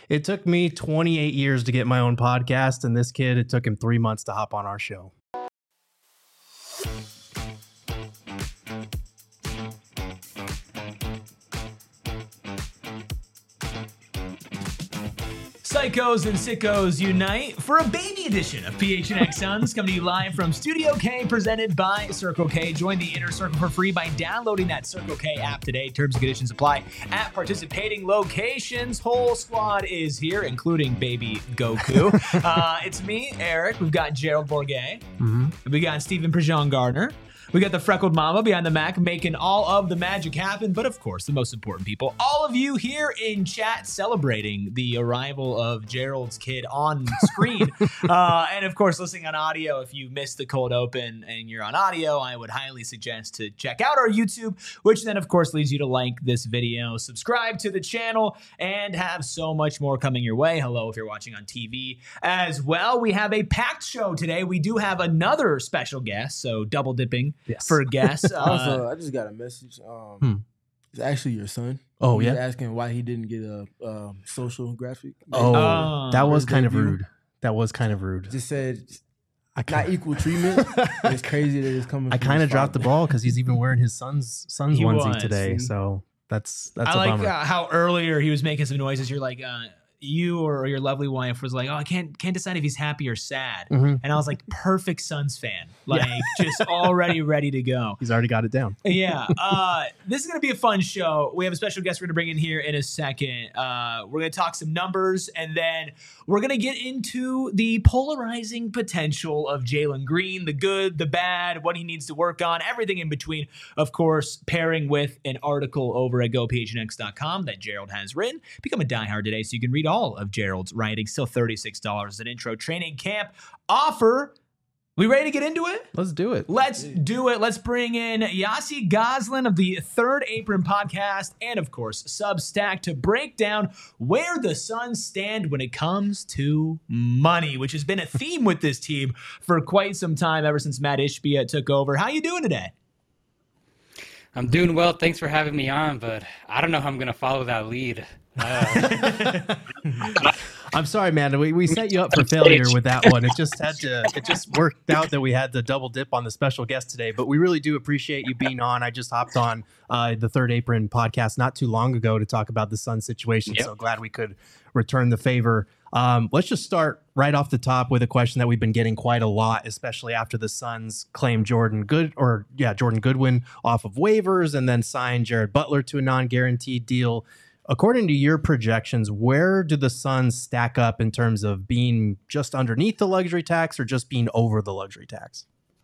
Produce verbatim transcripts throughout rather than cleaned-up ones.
It took me twenty-eight years to get my own podcast, and this kid, it took him three months to hop on our show. Psychos and sickos unite for a baby edition of P H N X Suns, coming to you live from Studio K, presented by Circle K. Join the Inner Circle for free by downloading that Circle K app today. Terms and conditions apply at participating locations. Whole squad is here, including baby Goku. uh, it's me, Eric. We've got Gerald Bourguet. Mm-hmm. We got Stephen Prejean Gardner. We got the freckled mama behind the Mac making all of the magic happen. But of course, the most important people, all of you here in chat celebrating the arrival of Gerald's kid on screen. uh, and of course, listening on audio. If you missed the cold open and you're on audio, I would highly suggest to check out our YouTube, which then of course leads you to like this video, subscribe to the channel, and have so much more coming your way. Hello if you're watching on T V as well. We have a packed show today. We do have another special guest, so double dipping. Yes. For guests. Uh, also, I just got a message. Um, hmm. It's actually your son. Oh, He's yeah? asking why he didn't get a um, social graphic. Oh, uh, that was his kind of debut. rude. That was kind of rude. Just said I not kinda, equal treatment. It's crazy that it's coming I from kind of his dropped the father. ball because he's even wearing his son's son's He onesie was. today. See? So that's that's I a like bummer. uh, how earlier he was making some noises. You're like, uh, you or your lovely wife was like, oh, I can't can't decide if he's happy or sad. Mhm. And I was like, perfect Suns fan. Like, just already ready to go. He's already got it down. Yeah. Uh, this is going to be a fun show. We have a special guest we're going to bring in here in a second. Uh, we're going to talk some numbers, and then we're going to get into the polarizing potential of Jalen Green, the good, the bad, what he needs to work on, everything in between. Of course, pairing with an article over at go p h n x dot com that Gerald has written. Become a diehard today so you can read all of Gerald's writing. Still thirty-six dollars as an intro training camp offer. We ready to get into it? Let's do it. Let's do it. Let's bring in Yossi Goslin of the Third Apron podcast and, of course, Substack to break down where the Suns stand when it comes to money, which has been a theme with this team for quite some time, ever since Matt Ishbia took over. How you doing today? I'm doing well. Thanks for having me on, but I don't know how I'm going to follow that lead. Uh, I'm sorry, man. We, we set you up for failure with that one. It just had to. It just worked out that we had the double dip on the special guest today. But we really do appreciate you being on. I just hopped on uh, the Third Apron podcast not too long ago to talk about the Sun situation. Yep. So glad we could return the favor. Um, let's just start right off the top with a question that we've been getting quite a lot, especially after the Suns claimed Jordan Good or yeah Jordan Goodwin off of waivers and then signed Jared Butler to a non-guaranteed deal. According to your projections, where do the Suns stack up in terms of being just underneath the luxury tax or just being over the luxury tax?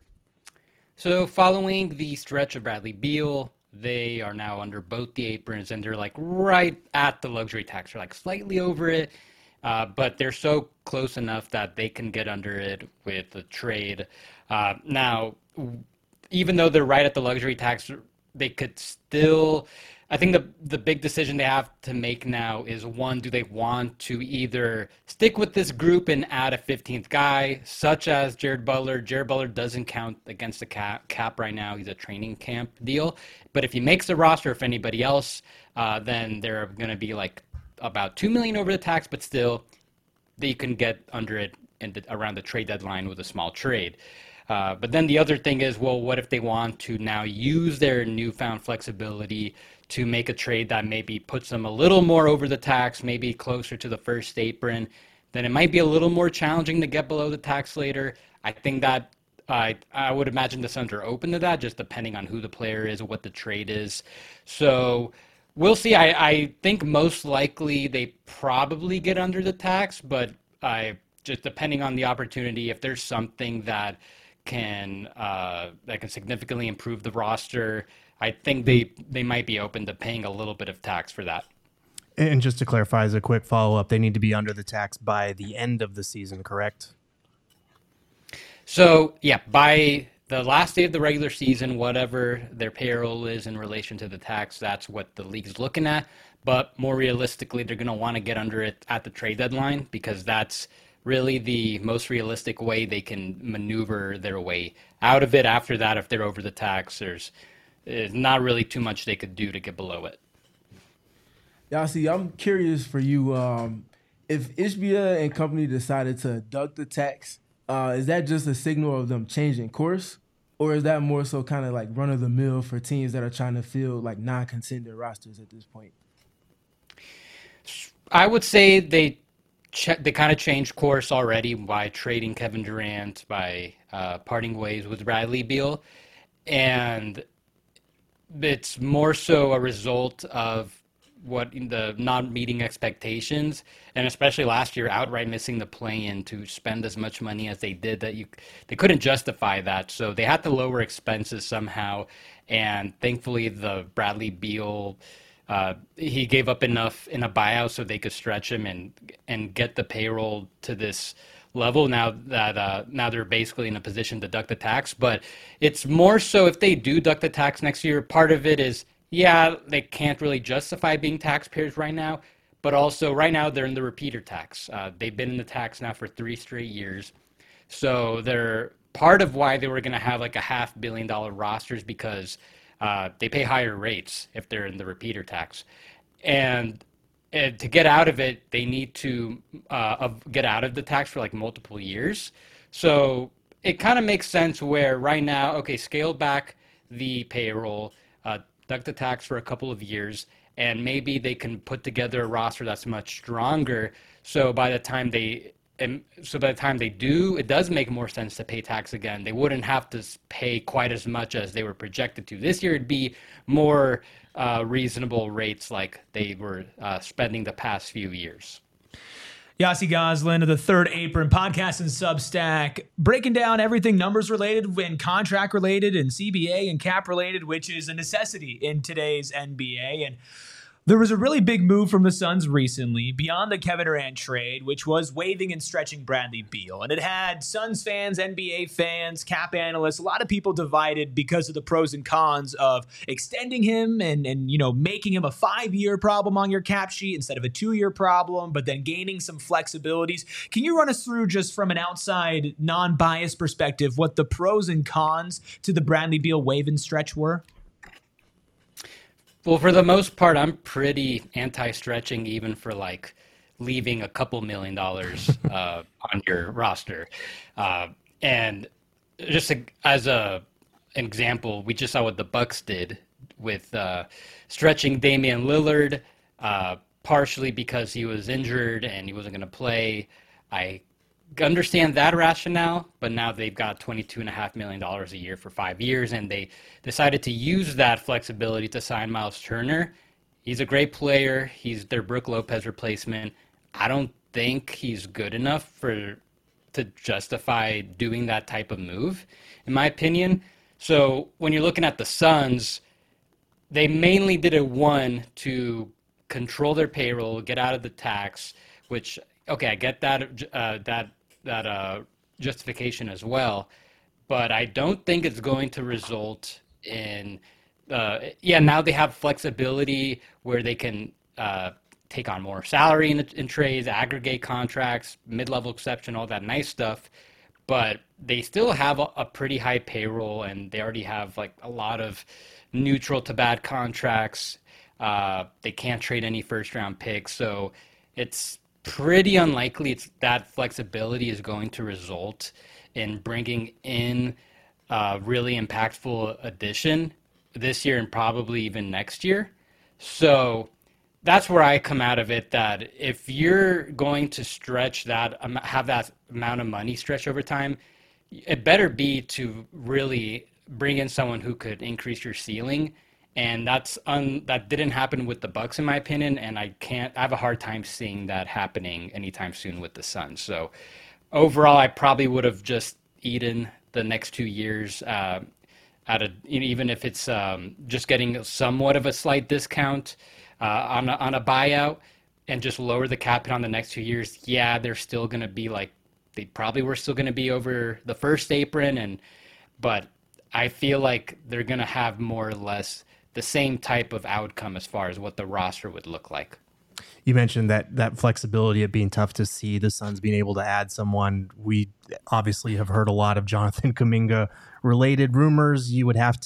so following the stretch of Bradley Beal, they are now under both the aprons, and they're like right at the luxury tax. They're like slightly over it, uh, but they're so close enough that they can get under it with a trade. Uh, now, even though they're right at the luxury tax, they could still... I think the the big decision they have to make now is, one, do they want to either stick with this group and add a fifteenth guy, such as Jared Butler? Jared Butler doesn't count against the cap, cap right now. He's a training camp deal. But if he makes the roster, if anybody else, uh, then they're going to be like about two million dollars over the tax, but still they can get under it in the, around the trade deadline with a small trade. Uh, but then the other thing is, well, what if they want to now use their newfound flexibility to make a trade that maybe puts them a little more over the tax, maybe closer to the first apron? Then it might be a little more challenging to get below the tax later. I think that I I would imagine the Suns are open to that, just depending on who the player is, what the trade is. So we'll see. I, I think most likely they probably get under the tax, but I just depending on the opportunity, if there's something that can uh, that can significantly improve the roster, I think they they might be open to paying a little bit of tax for that. And just to clarify, as a quick follow-up, they need to be under the tax by the end of the season, correct? So, yeah, by the last day of the regular season, whatever their payroll is in relation to the tax, that's what the league's looking at. But more realistically, they're going to want to get under it at the trade deadline, because that's really the most realistic way they can maneuver their way out of it. After that, if they're over the tax, there's, there's not really too much they could do to get below it. Yossi, I'm curious for you. Um, if Ishbia and company decided to duck the tax, uh, is that just a signal of them changing course? Or is that more so kind of like run of the mill for teams that are trying to fill like non-contender rosters at this point? I would say they che- they kind of changed course already by trading Kevin Durant, by uh, parting ways with Bradley Beal. And it's more so a result of what the not meeting expectations, and especially last year outright missing the play-in to spend as much money as they did, that you they couldn't justify that. So they had to lower expenses somehow, and thankfully the Bradley Beal uh, he gave up enough in a buyout so they could stretch him and and get the payroll to this level now that uh, now they're basically in a position to duck the tax. But it's more so if they do duck the tax next year, part of it is, yeah, they can't really justify being taxpayers right now, but also right now they're in the repeater tax. Uh, they've been in the tax now for three straight years. So they're part of why they were going to have like a half billion dollar rosters, because uh, they pay higher rates if they're in the repeater tax. And And to get out of it, they need to uh, get out of the tax for like multiple years. So it kind of makes sense where right now, okay, scale back the payroll, uh, duck the tax for a couple of years, and maybe they can put together a roster that's much stronger. So by the time they, and so by the time they do, it does make more sense to pay tax again. They wouldn't have to pay quite as much as they were projected to. This year, it'd be more uh, reasonable rates like they were uh, spending the past few years. Yossi Goslin of the Third Apron podcast and Substack, breaking down everything numbers related and contract related and C B A and cap related, which is a necessity in today's N B A. And there was a really big move from the Suns recently beyond the Kevin Durant trade, which was waiving and stretching Bradley Beal. And it had Suns fans, N B A fans, cap analysts, a lot of people divided because of the pros and cons of extending him and, and you know, making him a five-year problem on your cap sheet instead of a two-year problem, but then gaining some flexibilities. Can you run us through, just from an outside, non-biased perspective, what the pros and cons to the Bradley Beal waive and stretch were? Well, for the most part, I'm pretty anti-stretching, even for like leaving a couple million dollars uh, on your roster. Uh, and just a, as a an example, we just saw what the Bucks did with uh, stretching Damian Lillard, uh, partially because he was injured and he wasn't going to play. I understand that rationale, but now they've got twenty-two point five million dollars a year for five years, and they decided to use that flexibility to sign Miles Turner. He's a great player. He's their Brook Lopez replacement. I don't think he's good enough for to justify doing that type of move, in my opinion. So when you're looking at the Suns, they mainly did it, one, to control their payroll, get out of the tax, which, okay, I get that uh, that that uh, justification as well, but I don't think it's going to result in, uh, yeah, now they have flexibility where they can uh, take on more salary in, in trades, aggregate contracts, mid-level exception, all that nice stuff, but they still have a, a pretty high payroll, and they already have like a lot of neutral to bad contracts. Uh, they can't trade any first-round picks, so it's pretty unlikely it's that flexibility is going to result in bringing in a really impactful addition this year and probably even next year. So that's where I come out of it, that if you're going to stretch that, have that amount of money stretch over time, it better be to really bring in someone who could increase your ceiling. And that's un, that didn't happen with the Bucks, in my opinion, and I can't. I have a hard time seeing that happening anytime soon with the Suns. So overall, I probably would have just eaten the next two years uh, at a, you know, even if it's um, just getting somewhat of a slight discount uh, on a, on a buyout, and just lower the cap hit on the next two years. Yeah, they're still going to be like, they probably were still going to be over the first apron, and but I feel like they're going to have more or less the same type of outcome as far as what the roster would look like. You mentioned that that flexibility of being tough to see, the Suns being able to add someone. We obviously have heard a lot of Jonathan Kuminga related rumors. You would have to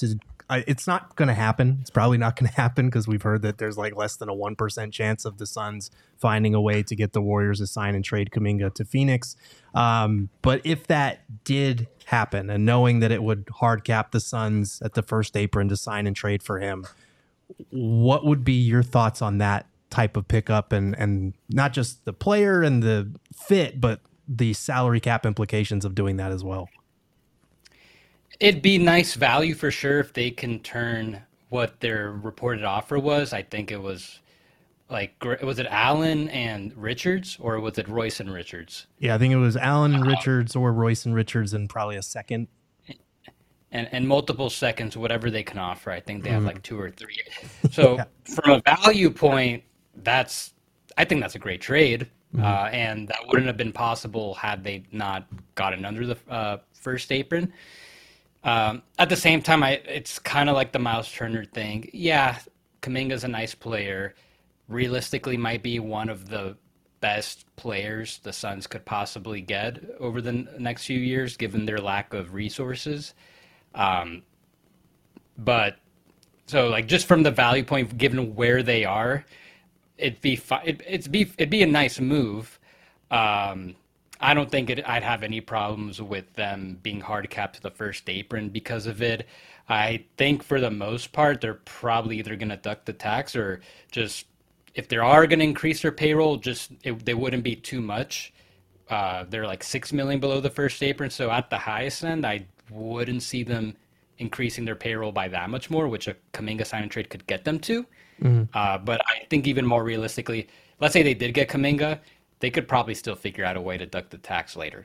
I, it's not going to happen. It's probably not going to happen because we've heard that there's like less than a one percent chance of the Suns finding a way to get the Warriors to sign and trade Kuminga to Phoenix. Um, but if that did happen, and knowing that it would hard cap the Suns at the first apron to sign and trade for him, what would be your thoughts on that type of pickup, and and not just the player and the fit, but the salary cap implications of doing that as well? It'd be nice value for sure if they can turn what their reported offer was. I think it was like, was it Allen and Richards, or was it Royce and Richards? Yeah, I think it was Allen and Richards, or Royce and Richards, and probably a second. And and multiple seconds, whatever they can offer. I think they have like two or three. So Yeah. from a value point, that's I think that's a great trade. Mhm. Uh, and that wouldn't have been possible had they not gotten under the uh, first apron. Um, at the same time, I it's kind of like the Miles Turner thing. Yeah, Kuminga's a nice player. Realistically, might be one of the best players the Suns could possibly get over the n- next few years, given their lack of resources. Um, but so like just from the value point, given where they are, it'd be fi- it, it's be it'd be a nice move. Um, I don't think it, I'd have any problems with them being hard capped to the first apron because of it. I think for the most part, they're probably either going to duck the tax or just, if they are going to increase their payroll, just it, they wouldn't be too much. Uh, they're like six million below the first apron, so at the highest end, I wouldn't see them increasing their payroll by that much more, which a Kuminga sign and trade could get them to. Mm-hmm. Uh, but I think even more realistically, let's say they did get Kuminga, they could probably still figure out a way to duck the tax later.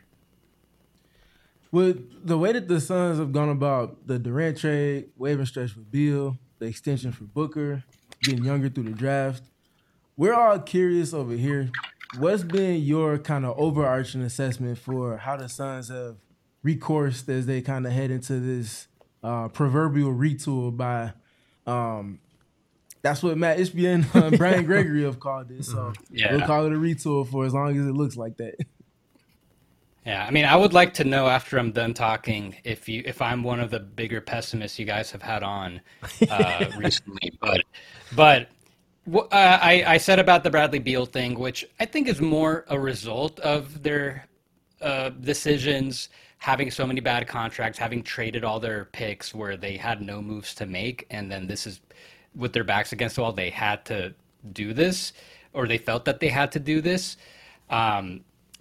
With the way that the Suns have gone about the Durant trade, waiver stretch for Beal, the extension for Booker, getting younger through the draft, we're all curious over here. What's been your kind of overarching assessment for how the Suns have recoursed as they kind of head into this uh, proverbial retool by um, that's what Matt Ishbia and uh, Brian Gregory have called it. So Yeah. we'll call it a retool for as long as it looks like that. Yeah, I mean, I would like to know after I'm done talking if you if I'm one of the bigger pessimists you guys have had on uh, recently. But but wh- uh, I I said about the Bradley Beal thing, which I think is more a result of their uh, decisions, having so many bad contracts, having traded all their picks where they had no moves to make, and then this is with their backs against the wall, they had to do this, or they felt that they had to do this. Um,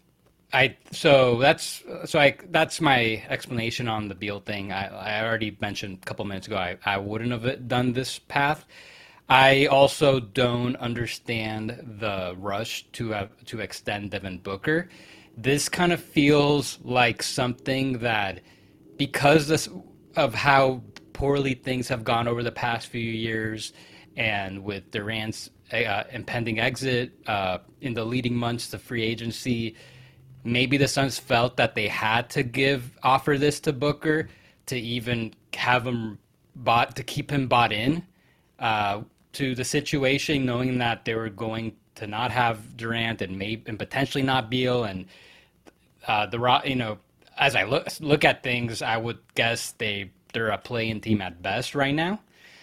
I so that's so I that's my explanation on the Beal thing. I, I already mentioned a couple minutes ago I, I wouldn't have done this path. I also don't understand the rush to have to extend Devin Booker. This kind of feels like something that, because this, of how poorly things have gone over the past few years, and with Durant's uh, impending exit uh, in the leading months to free agency, maybe the Suns felt that they had to give offer this to Booker to even have him bought, to keep him bought in uh, to the situation, knowing that they were going to not have Durant and maybe and potentially not Beal, and uh, the Ro- you know as I look look at things, I would guess they they're a play-in team at best right now.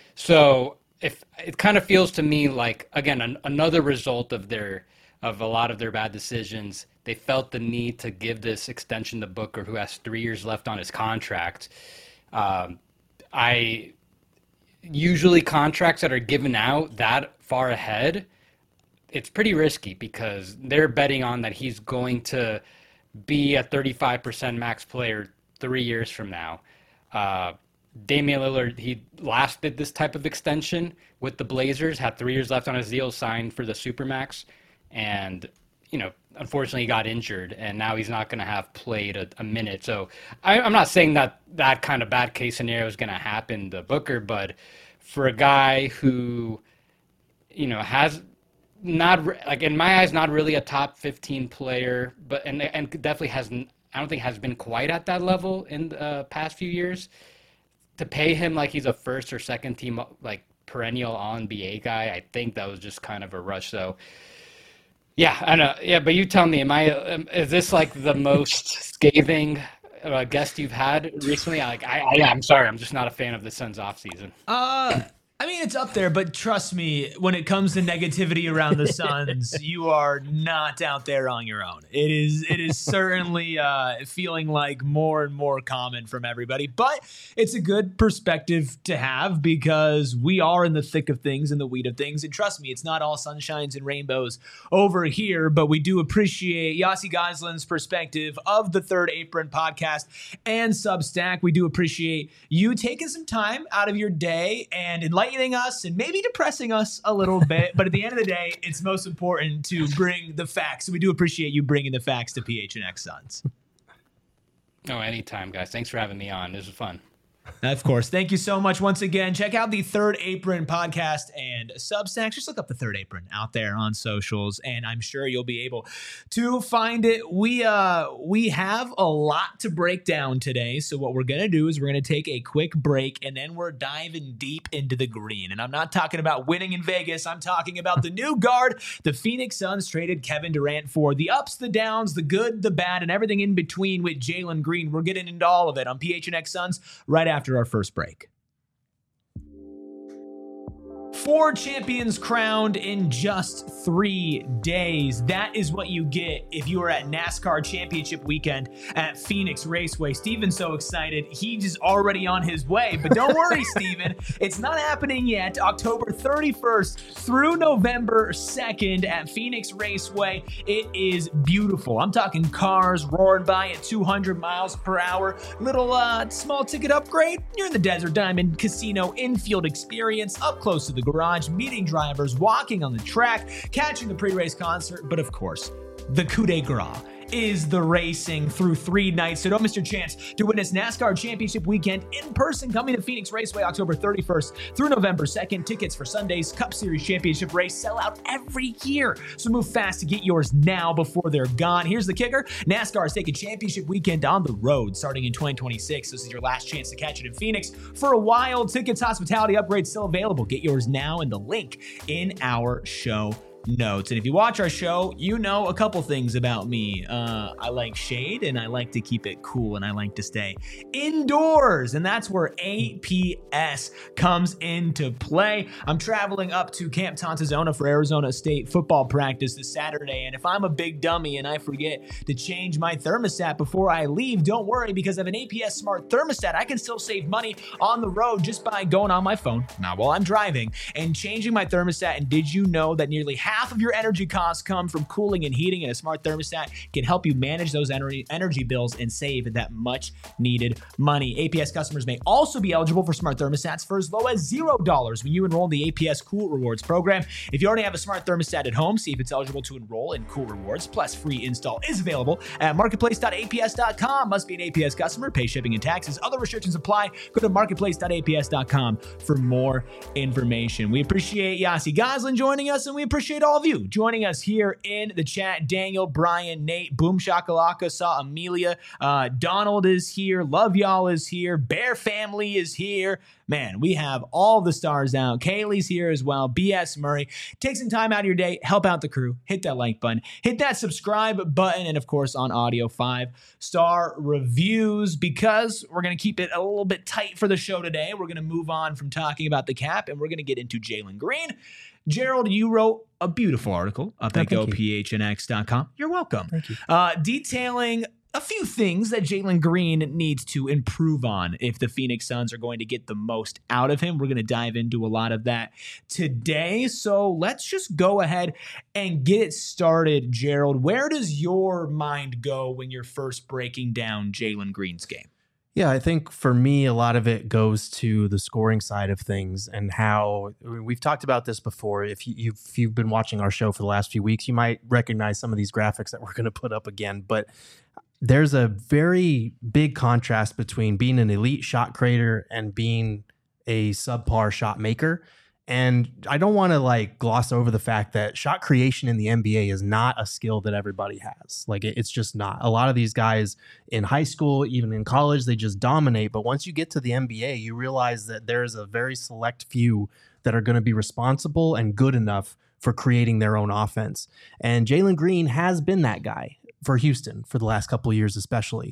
So if it kind of feels to me like, again, an, another result of their of a lot of their bad decisions. They felt the need to give this extension to Booker, who has three years left on his contract. Um, I usually contracts that are given out that far ahead, it's pretty risky because they're betting on that he's going to be a thirty-five percent max player three years from now. Uh, Damian Lillard, he last did this type of extension with the Blazers, had three years left on his deal, signed for the Supermax, and you know, unfortunately, he got injured, and now he's not going to have played a, a minute. So I, I'm not saying that that kind of bad case scenario is going to happen to Booker, but for a guy who, you know, has not like in my eyes, not really a top fifteen player, but and and definitely hasn't. I don't think has been quite at that level in the uh, past few years. To pay him like he's a first or second team, like perennial All N B A guy, I think that was just kind of a rush. So. Yeah, I know. Yeah, but you tell me, am I? Um, is this like the most scathing uh, guest you've had recently? Like, I, I, I'm sorry, I'm just not a fan of the Suns offseason. Uh, I mean, it's up there, but trust me, when it comes to negativity around the Suns, you are not out there on your own. It is it is certainly uh, feeling like more and more common from everybody, but it's a good perspective to have because we are in the thick of things, in the weed of things, and trust me, it's not all sunshines and rainbows over here, but we do appreciate Yossi Goslin's perspective of the Third Apron podcast and Substack. We do appreciate you taking some time out of your day and enlightening us and maybe depressing us a little bit, but at the end of the day, it's most important to bring the facts. So we do appreciate you bringing the facts to P H N X Suns. Oh, anytime, guys. Thanks for having me on. This was fun. Of course. Thank you so much once again. Check out the Third Apron podcast and Substack. Just look up the Third Apron out there on socials, and I'm sure you'll be able to find it. We uh we have a lot to break down today, so what we're going to do is we're going to take a quick break, and then we're diving deep into the green. And I'm not talking about winning in Vegas. I'm talking about the new guard. The Phoenix Suns traded Kevin Durant for the ups, the downs, the good, the bad, and everything in between with Jalen Green. We're getting into all of it on P H N X Suns right after after our first break. Four champions crowned in just three days. That is what you get if you are at NASCAR Championship Weekend at Phoenix Raceway. Steven's so excited. He's already on his way. But don't worry, Steven. It's not happening yet. October thirty-first through November second at Phoenix Raceway. It is beautiful. I'm talking cars roaring by at two hundred miles per hour. Little uh, small ticket upgrade. You're in the Desert Diamond Casino infield experience up close to the garage, meeting drivers, walking on the track, catching the pre-race concert, but of course, the coup de grace is the racing through three nights. So don't miss your chance to witness NASCAR Championship Weekend in person coming to Phoenix Raceway October thirty-first through November second. Tickets for Sunday's Cup Series Championship race sell out every year. So move fast to get yours now before they're gone. Here's the kicker. NASCAR is taking Championship Weekend on the road starting in twenty twenty-six. This is your last chance to catch it in Phoenix for a while. Tickets, hospitality upgrades still available. Get yours now in the link in our show notes. And if you watch our show, you know a couple things about me. Uh, I like shade and I like to keep it cool and I like to stay indoors. And that's where A P S comes into play. I'm traveling up to Camp Tontezona for Arizona State football practice this Saturday. And if I'm a big dummy and I forget to change my thermostat before I leave, don't worry, because I have an A P S smart thermostat. I can still save money on the road just by going on my phone, not while I'm driving, and changing my thermostat. And did you know that nearly half Half of your energy costs come from cooling and heating, and a smart thermostat can help you manage those energy energy bills and save that much needed money. A P S customers may also be eligible for smart thermostats for as low as zero dollars when you enroll in the A P S Cool Rewards program. If you already have a smart thermostat at home, see if it's eligible to enroll in Cool Rewards. Plus, free install is available at marketplace dot A P S dot com. Must be an A P S customer, pay shipping and taxes. Other restrictions apply. Go to marketplace dot A P S dot com for more information. We appreciate Yossi Goslin joining us, and we appreciate all of you joining us here in the chat. Daniel, Brian, Nate, Boom Shakalaka, saw Amelia, uh, Donald is here, Love Y'all is here, Bear Family is here. Man, we have all the stars out. Kaylee's here as well. B S Murray. Take some time out of your day, help out the crew, hit that like button, hit that subscribe button, and of course on audio, five star reviews, because we're going to keep it a little bit tight for the show today. We're going to move on from talking about the cap, and we're going to get into Jalen Green. Gerald, you wrote a beautiful article up at go P H N X dot com. You're welcome. Thank you. Uh, detailing a few things that Jalen Green needs to improve on if the Phoenix Suns are going to get the most out of him. We're going to dive into a lot of that today. So let's just go ahead and get it started, Gerald. Where does your mind go when you're first breaking down Jalen Green's game? Yeah, I think for me, a lot of it goes to the scoring side of things and how I mean, we've talked about this before. If, you, you've, if you've been watching our show for the last few weeks, you might recognize some of these graphics that we're going to put up again. But there's a very big contrast between being an elite shot creator and being a subpar shot maker. And I don't want to like gloss over the fact that shot creation in the N B A is not a skill that everybody has. Like it, it's just not. A lot of these guys in high school, even in college, they just dominate. But once you get to the N B A, you realize that there's a very select few that are going to be responsible and good enough for creating their own offense. And Jalen Green has been that guy for Houston for the last couple of years, especially.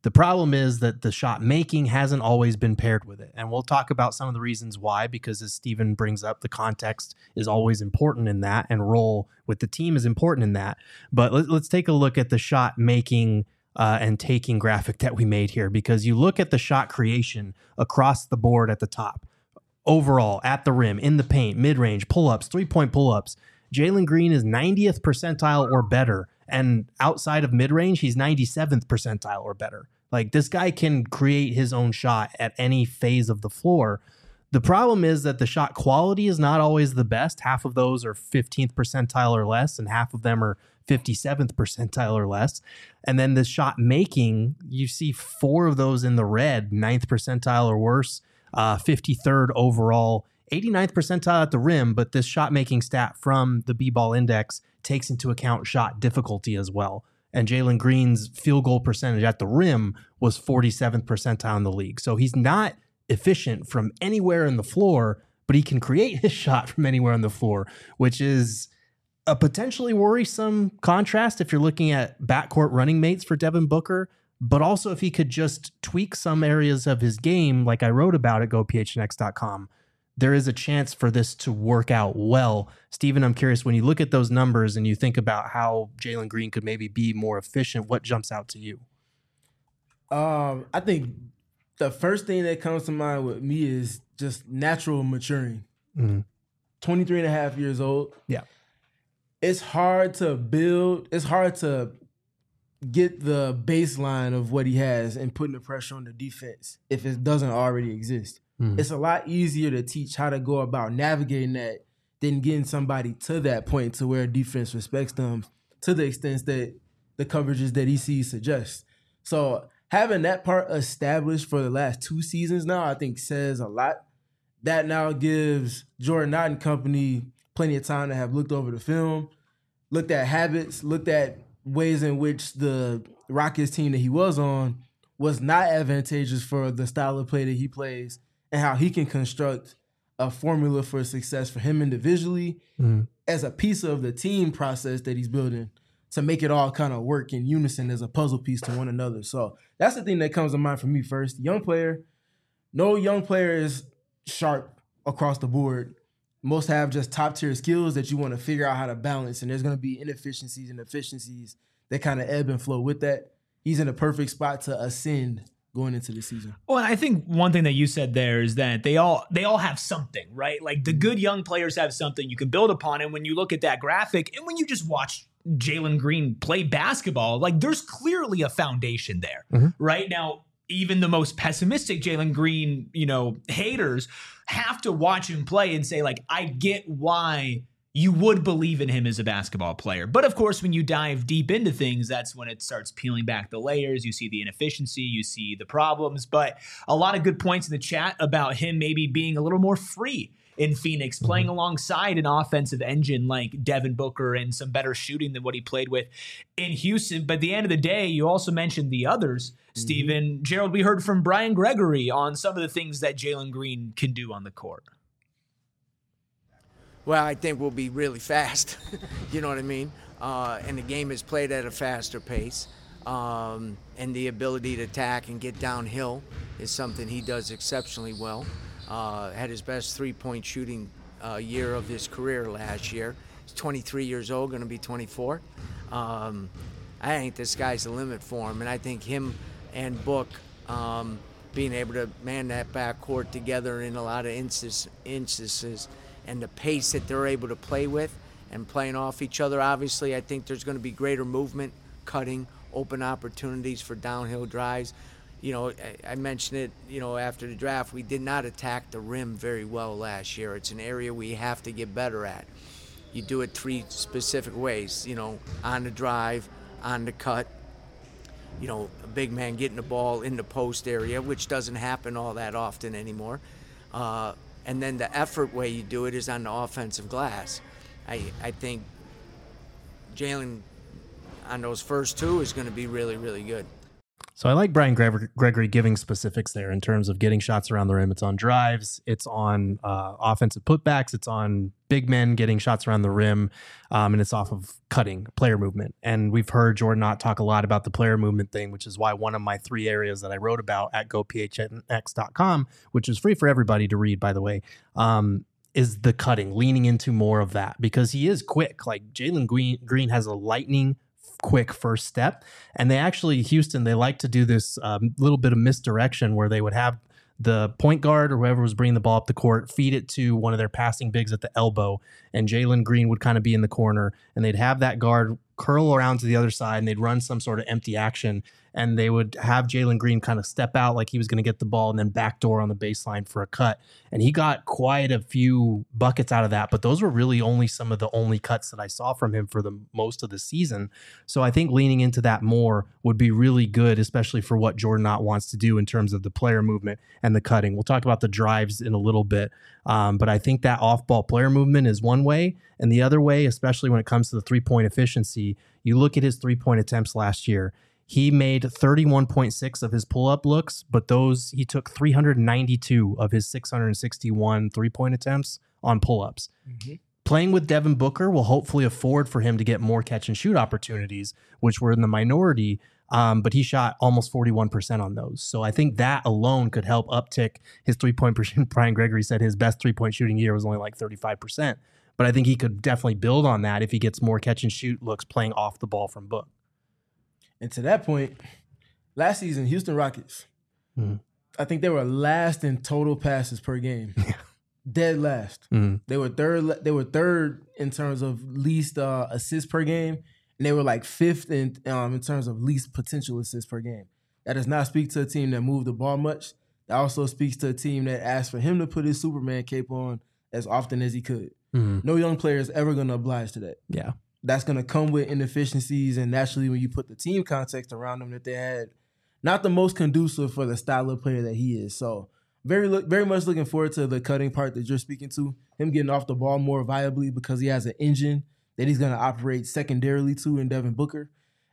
The problem is that the shot making hasn't always been paired with it. And we'll talk about some of the reasons why, because as Steven brings up, the context is always important in that, and role with the team is important in that. But let, let's take a look at the shot making uh, and taking graphic that we made here, because you look at the shot creation across the board at the top. Overall, at the rim, in the paint, mid-range, pull-ups, three-point pull-ups, Jalen Green is ninetieth percentile or better. And outside of mid-range, he's ninety-seventh percentile or better. Like, this guy can create his own shot at any phase of the floor. The problem is that the shot quality is not always the best. Half of those are fifteenth percentile or less, and half of them are fifty-seventh percentile or less. And then the shot making, you see four of those in the red, ninth percentile or worse, uh, fifty-third overall, eighty-ninth percentile at the rim. But this shot making stat from the B-Ball Index takes into account shot difficulty as well. And Jalen Green's field goal percentage at the rim was forty-seventh percentile in the league. So he's not efficient from anywhere in the floor, but he can create his shot from anywhere on the floor, which is a potentially worrisome contrast if you're looking at backcourt running mates for Devin Booker, but also if he could just tweak some areas of his game, like I wrote about at go p h n x dot com, there is a chance for this to work out well. Steven, I'm curious, when you look at those numbers and you think about how Jalen Green could maybe be more efficient, what jumps out to you? Um, I think the first thing that comes to mind with me is just natural maturing. Mm-hmm. twenty-three and a half years old. Yeah. It's hard to build. It's hard to get the baseline of what he has and putting the pressure on the defense if it doesn't already exist. Mm-hmm. It's a lot easier to teach how to go about navigating that than getting somebody to that point to where defense respects them to the extent that the coverages that he sees suggest. So having that part established for the last two seasons now, I think says a lot. That now gives Jordan Knott and company plenty of time to have looked over the film, looked at habits, looked at ways in which the Rockets team that he was on was not advantageous for the style of play that he plays, and how he can construct a formula for success for him individually mm. as a piece of the team process that he's building to make it all kind of work in unison as a puzzle piece to one another. So that's the thing that comes to mind for me first. Young player, no young player is sharp across the board. Most have just top tier skills that you want to figure out how to balance, and there's going to be inefficiencies and efficiencies that kind of ebb and flow with that. He's in a perfect spot to ascend going into the season. Well, and I think one thing that you said there is that they all they all have something, right? Like the good young players have something you can build upon. And when you look at that graphic and when you just watch Jalen Green play basketball, like there's clearly a foundation there, mm-hmm. right? Now, even the most pessimistic Jalen Green, you know, haters have to watch him play and say, like, I get why you would believe in him as a basketball player. But of course, when you dive deep into things, that's when it starts peeling back the layers. You see the inefficiency, you see the problems, but a lot of good points in the chat about him maybe being a little more free in Phoenix, playing alongside an offensive engine like Devin Booker and some better shooting than what he played with in Houston. But at the end of the day, you also mentioned the others, mm-hmm. Steven. Gerald, we heard from Brian Gregory on some of the things that Jalen Green can do on the court. Well, I think we'll be really fast, you know what I mean? Uh, and the game is played at a faster pace. Um, and the ability to attack and get downhill is something he does exceptionally well. Uh, had his best three-point shooting uh, year of his career last year. He's twenty-three years old, going to be twenty-four. Um, I think the sky's the limit for him, and I think him and Book um, being able to man that backcourt together in a lot of instances, instances and the pace that they're able to play with and playing off each other, obviously, I think there's going to be greater movement, cutting, open opportunities for downhill drives. You know, I mentioned it, you know, after the draft, we did not attack the rim very well last year. It's an area we have to get better at. You do it three specific ways, you know, on the drive, on the cut, you know, a big man getting the ball in the post area, which doesn't happen all that often anymore. Uh, and then the effort way you do it is on the offensive glass. I, I think Jalen on those first two is going to be really, really good. So I like Brian Gre- Gregory giving specifics there in terms of getting shots around the rim. It's on drives, it's on uh, offensive putbacks, it's on big men getting shots around the rim, um, and it's off of cutting, player movement. And we've heard Jordan Ott talk a lot about the player movement thing, which is why one of my three areas that I wrote about at go p h n x dot com, which is free for everybody to read, by the way, um, is the cutting, leaning into more of that, because he is quick. Like Jalen Green, Green has a lightning quick first step. And they actually, Houston, they like to do this um, little bit of misdirection where they would have the point guard or whoever was bringing the ball up the court feed it to one of their passing bigs at the elbow, and Jalen Green would kind of be in the corner, and they'd have that guard curl around to the other side, and they'd run some sort of empty action, and they would have Jalen Green kind of step out like he was going to get the ball and then backdoor on the baseline for a cut. And he got quite a few buckets out of that, but those were really only some of the only cuts that I saw from him for the most of the season. So I think leaning into that more would be really good, especially for what Jordan Ott wants to do in terms of the player movement and the cutting. We'll talk about the drives in a little bit, um, but I think that off-ball player movement is one way, and the other way, especially when it comes to the three-point efficiency, you look at his three-point attempts last year. He made thirty-one point six of his pull-up looks, but those he took three hundred ninety-two of his six hundred sixty-one three-point attempts on pull-ups. Mm-hmm. Playing with Devin Booker will hopefully afford for him to get more catch-and-shoot opportunities, which were in the minority, um, but he shot almost forty-one percent on those. So I think that alone could help uptick his three-point percent. Brian Gregory said his best three-point shooting year was only like thirty-five percent, but I think he could definitely build on that if he gets more catch-and-shoot looks playing off the ball from Book. And to that point, last season, Houston Rockets, mm. I think they were last in total passes per game. Dead last. Mm. They were third. They were third in terms of least uh, assists per game, and they were like fifth in um, in terms of least potential assists per game. That does not speak to a team that moved the ball much. That also speaks to a team that asked for him to put his Superman cape on as often as he could. Mm. No young player is ever going to oblige to that. Yeah. That's going to come with inefficiencies, and naturally when you put the team context around them that they had, not the most conducive for the style of player that he is. So very look, very much looking forward to the cutting part that you're speaking to, him getting off the ball more viably because he has an engine that he's going to operate secondarily to in Devin Booker,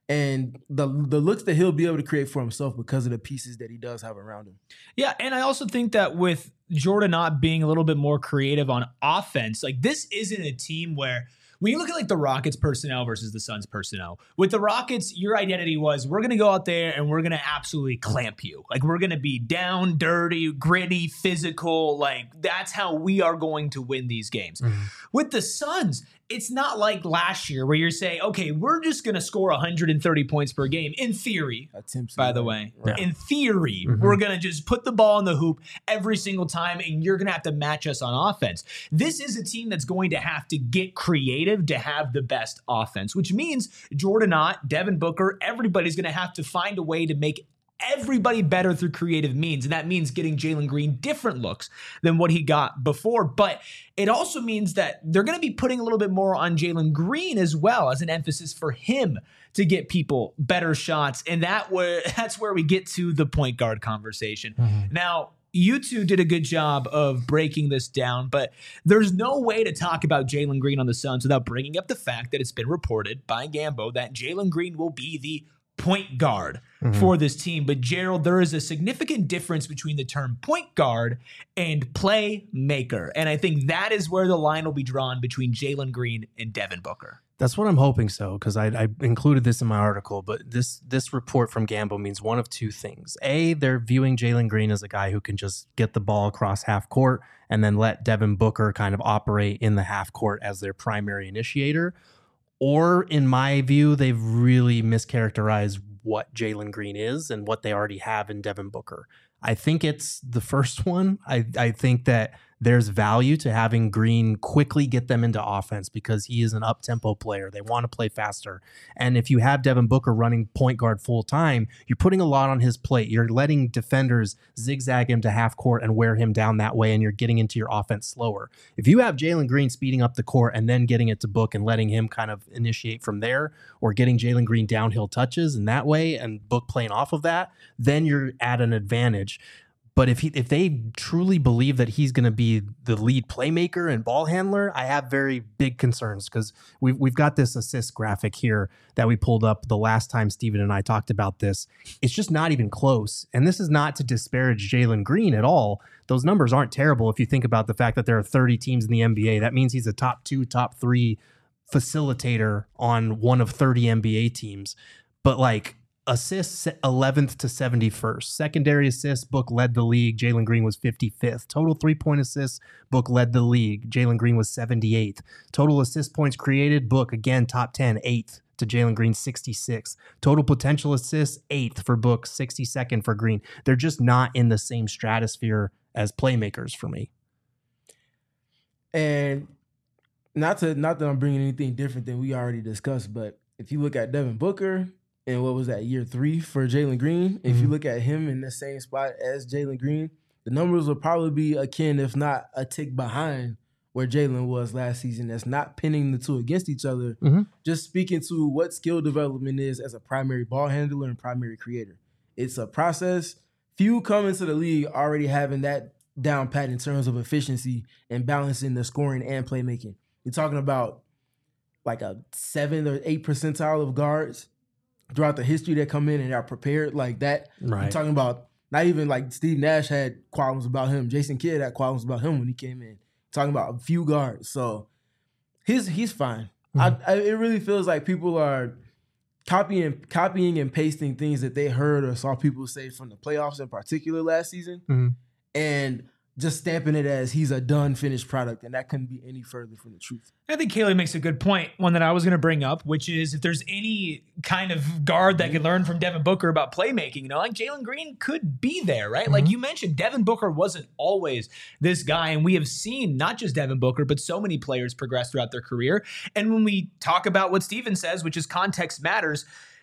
and the the looks that he'll be able to create for himself because of the pieces that he does have around him. Yeah, and I also think that with Jordan Ott being a little bit more creative on offense, like this isn't a team where when you look at like the Rockets personnel versus the Suns personnel, with the Rockets, your identity was we're going to go out there and we're going to absolutely clamp you. Like we're going to be down, dirty, gritty, physical. Like that's how we are going to win these games. Mm-hmm. With the Suns, it's not like last year where you're saying, okay, we're just going to score one hundred thirty points per game. In theory, by the way, right. in theory, mm-hmm. we're going to just put the ball in the hoop every single time and you're going to have to match us on offense. This is a team that's going to have to get creative to have the best offense, which means Jordan Ott, Devin Booker, everybody's going to have to find a way to make everybody better through creative means. And that means getting Jalen Green different looks than what he got before. But it also means that they're going to be putting a little bit more on Jalen Green as well as an emphasis for him to get people better shots. And that where that's where we get to the point guard conversation. Mm-hmm. Now, you two did a good job of breaking this down, but there's no way to talk about Jalen Green on the Suns without bringing up the fact that it's been reported by Gambo that Jalen Green will be the point guard mm-hmm. for this team. But Gerald, there is a significant difference between the term point guard and playmaker. And I think that is where the line will be drawn between Jalen Green and Devin Booker. That's what I'm hoping so, because I, I included this in my article, but this this report from Gambo means one of two things. A, they're viewing Jalen Green as a guy who can just get the ball across half court and then let Devin Booker kind of operate in the half court as their primary initiator. Or in my view, they've really mischaracterized what Jalen Green is and what they already have in Devin Booker. I think it's the first one. I, I think that there's value to having Green quickly get them into offense because he is an up-tempo player. They want to play faster. And if you have Devin Booker running point guard full time, you're putting a lot on his plate. You're letting defenders zigzag him to half court and wear him down that way, and you're getting into your offense slower. If you have Jalen Green speeding up the court and then getting it to Book and letting him kind of initiate from there, or getting Jalen Green downhill touches in that way and Book playing off of that, then you're at an advantage. But if he, if they truly believe that he's going to be the lead playmaker and ball handler, I have very big concerns because we've, we've got this assist graphic here that we pulled up the last time Steven and I talked about this. It's just not even close. And this is not to disparage Jalen Green at all. Those numbers aren't terrible if you think about the fact that there are thirty teams in the N B A. That means he's a top two, top three facilitator on one of thirty N B A teams. But like, assists eleventh to seventy-first. Secondary assists, Book led the league. Jalen Green was fifty-fifth. Total three-point assists, Book led the league. Jalen Green was seventy-eighth. Total assist points created, Book again top ten, eighth to Jalen Green, sixty-sixth. Total potential assists, eighth for Book, sixty-second for Green. They're just not in the same stratosphere as playmakers for me. And not to not that I'm bringing anything different than we already discussed, but if you look at Devin Booker, and what was that, year three for Jalen Green? Mm-hmm. If you look at him in the same spot as Jalen Green, the numbers will probably be akin, if not a tick behind where Jalen was last season. That's not pinning the two against each other. Mm-hmm. Just speaking to what skill development is as a primary ball handler and primary creator. It's a process. Few come into the league already having that down pat in terms of efficiency and balancing the scoring and playmaking. You're talking about like a seven or eight percentile of guards throughout the history that come in and are prepared like that. Right. You're talking about not even like Steve Nash had qualms about him. Jason Kidd had qualms about him when he came in. Talking about a few guards. So his he's fine. Mm-hmm. I, I, it really feels like people are copying copying and pasting things that they heard or saw people say from the playoffs in particular last season. Mm-hmm. And just stamping it as he's a done, finished product, and that couldn't be any further from the truth. I think Kaylee makes a good point, one that I was going to bring up, which is if there's any kind of guard that could learn from Devin Booker about playmaking, you know, like Jalen Green could be there, right? Mm-hmm. Like you mentioned, Devin Booker wasn't always this guy, and we have seen not just Devin Booker, but so many players progress throughout their career. And when we talk about what Steven says, which is context matters,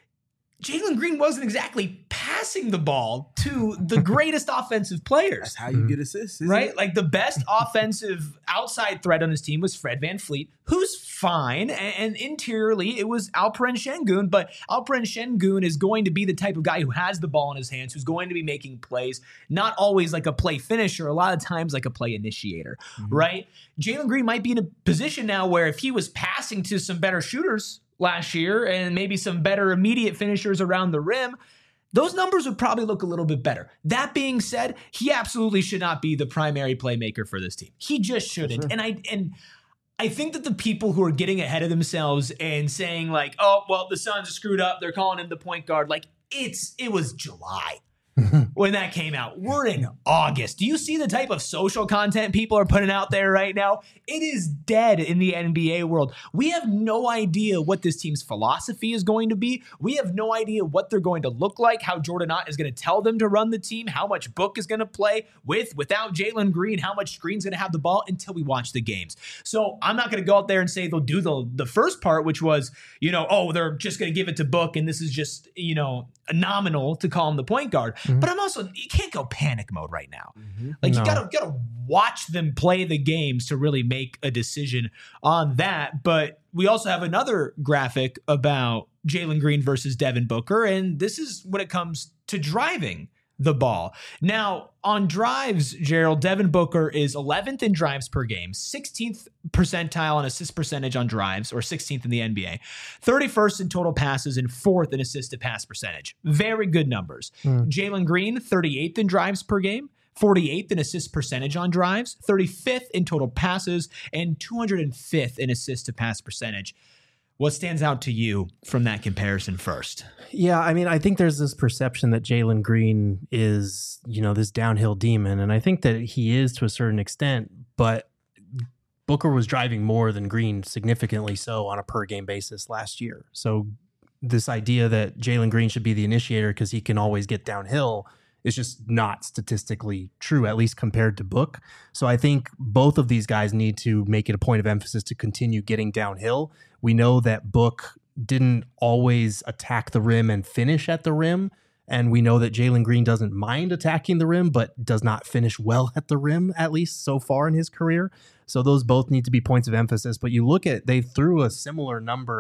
Jalen Green wasn't exactly passing the ball to the greatest offensive players. That's how you mm-hmm. get assists, right? It? Like the best offensive outside threat on his team was Fred VanVleet, who's fine. And, and interiorly, it was Alperen Şengün. But Alperen Şengün is going to be the type of guy who has the ball in his hands, who's going to be making plays, not always like a play finisher, a lot of times like a play initiator, mm-hmm. right? Jalen Green might be in a position now where if he was passing to some better shooters last year and maybe some better immediate finishers around the rim, those numbers would probably look a little bit better. That being said, he absolutely should not be the primary playmaker for this team. He just shouldn't. Sure. And I and I think that the people who are getting ahead of themselves and saying like, oh, well, the Suns are screwed up, they're calling him the point guard, like it's it was July when that came out. We're in August. Do you see the type of social content people are putting out there right now? It is dead in the N B A world. We have no idea what this team's philosophy is going to be. We have no idea what they're going to look like, how Jordan Ott is going to tell them to run the team, how much Book is going to play with, without Jalen Green, how much Green's going to have the ball until we watch the games. So I'm not going to go out there and say they'll do the, the first part, which was, you know, oh, they're just going to give it to Book and this is just, you know, nominal to call him the point guard. Mm-hmm. But I'm also, you can't go panic mode right now. Mm-hmm. Like no. you gotta gotta watch them play the games to really make a decision on that. But we also have another graphic about Jalen Green versus Devin Booker, and this is when it comes to driving the ball. Now, on drives, Gerald, Devin Booker is eleventh in drives per game, sixteenth percentile on assist percentage on drives, or sixteenth in the N B A, thirty-first in total passes, and fourth in assist to pass percentage. Very good numbers. Mm. Jalen Green, thirty-eighth in drives per game, forty-eighth in assist percentage on drives, thirty-fifth in total passes, and two hundred fifth in assist to pass percentage. What stands out to you from that comparison first? Yeah, I mean, I think there's this perception that Jalen Green is, you know, this downhill demon, and I think that he is to a certain extent, but Booker was driving more than Green, significantly so, on a per-game basis last year. So this idea that Jalen Green should be the initiator because he can always get downhill is just not statistically true, at least compared to Book. So I think both of these guys need to make it a point of emphasis to continue getting downhill. We know that Book didn't always attack the rim and finish at the rim. And we know that Jalen Green doesn't mind attacking the rim, but does not finish well at the rim, at least so far in his career. So those both need to be points of emphasis. But you look at, they threw a similar number of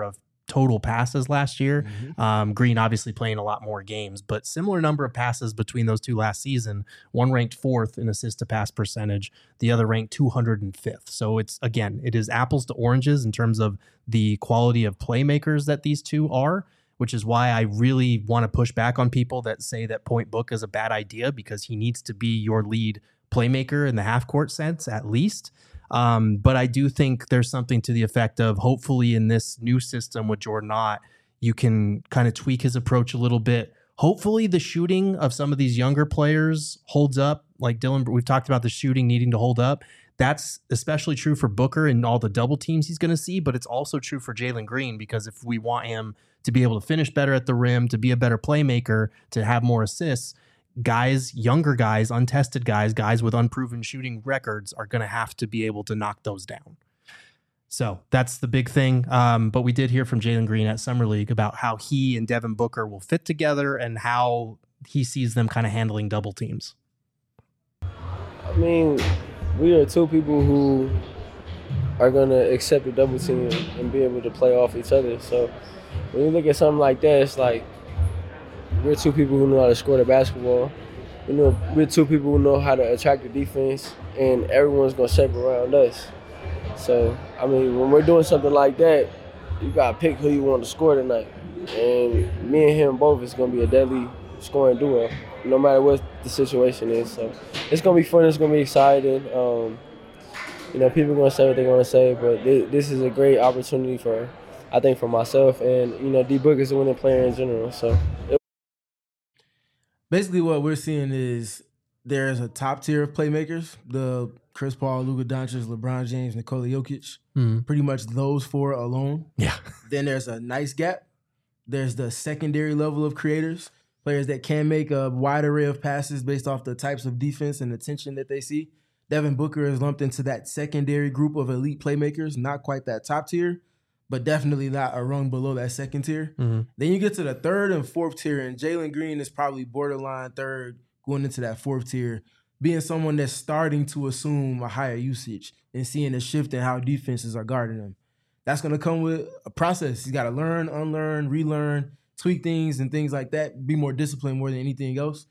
total passes last year. Mm-hmm. Um, Green obviously playing a lot more games, but similar number of passes between those two last season. One ranked fourth in assist to pass percentage, the other ranked two hundred fifth. So it's, again, it is apples to oranges in terms of the quality of playmakers that these two are, which is why I really want to push back on people that say that Point Book is a bad idea, because he needs to be your lead playmaker in the half court sense, at least. Um, but I do think there's something to the effect of, hopefully in this new system with Jordan Ott, you can kind of tweak his approach a little bit. Hopefully the shooting of some of these younger players holds up. Like Dylan, we've talked about the shooting needing to hold up. That's especially true for Booker and all the double teams he's going to see, but it's also true for Jalen Green, because if we want him to be able to finish better at the rim, to be a better playmaker, to have more assists, guys, younger guys, untested guys, guys with unproven shooting records are going to have to be able to knock those down. So that's the big thing. Um, but we did hear from Jalen Green at Summer League about how he and Devin Booker will fit together and how he sees them kind of handling double teams. I mean, we are two people who are going to accept the double team and be able to play off each other. So when you look at something like that, it's like, we're two people who know how to score the basketball. We know we're two people who know how to attract the defense, and everyone's gonna shape around us. So, I mean, when we're doing something like that, you gotta pick who you want to score tonight. And me and him both is gonna be a deadly scoring duo, no matter what the situation is. So it's gonna be fun. It's gonna be exciting. Um, you know, people are gonna say what they're gonna say, but th- this is a great opportunity for, I think, for myself, and you know, D Book is a winning player in general. So. It- Basically, what we're seeing is there's a top tier of playmakers, the Chris Paul, Luka Doncic, LeBron James, Nikola Jokic, mm-hmm. pretty much those four alone. Yeah. Then there's a nice gap. There's the secondary level of creators, players that can make a wide array of passes based off the types of defense and attention that they see. Devin Booker is lumped into that secondary group of elite playmakers, not quite that top tier, but definitely not a rung below that second tier. Mm-hmm. Then you get to the third and fourth tier, and Jalen Green is probably borderline third going into that fourth tier, being someone that's starting to assume a higher usage and seeing a shift in how defenses are guarding him. That's going to come with a process. He's got to learn, unlearn, relearn, tweak things and things like that, be more disciplined more than anything else.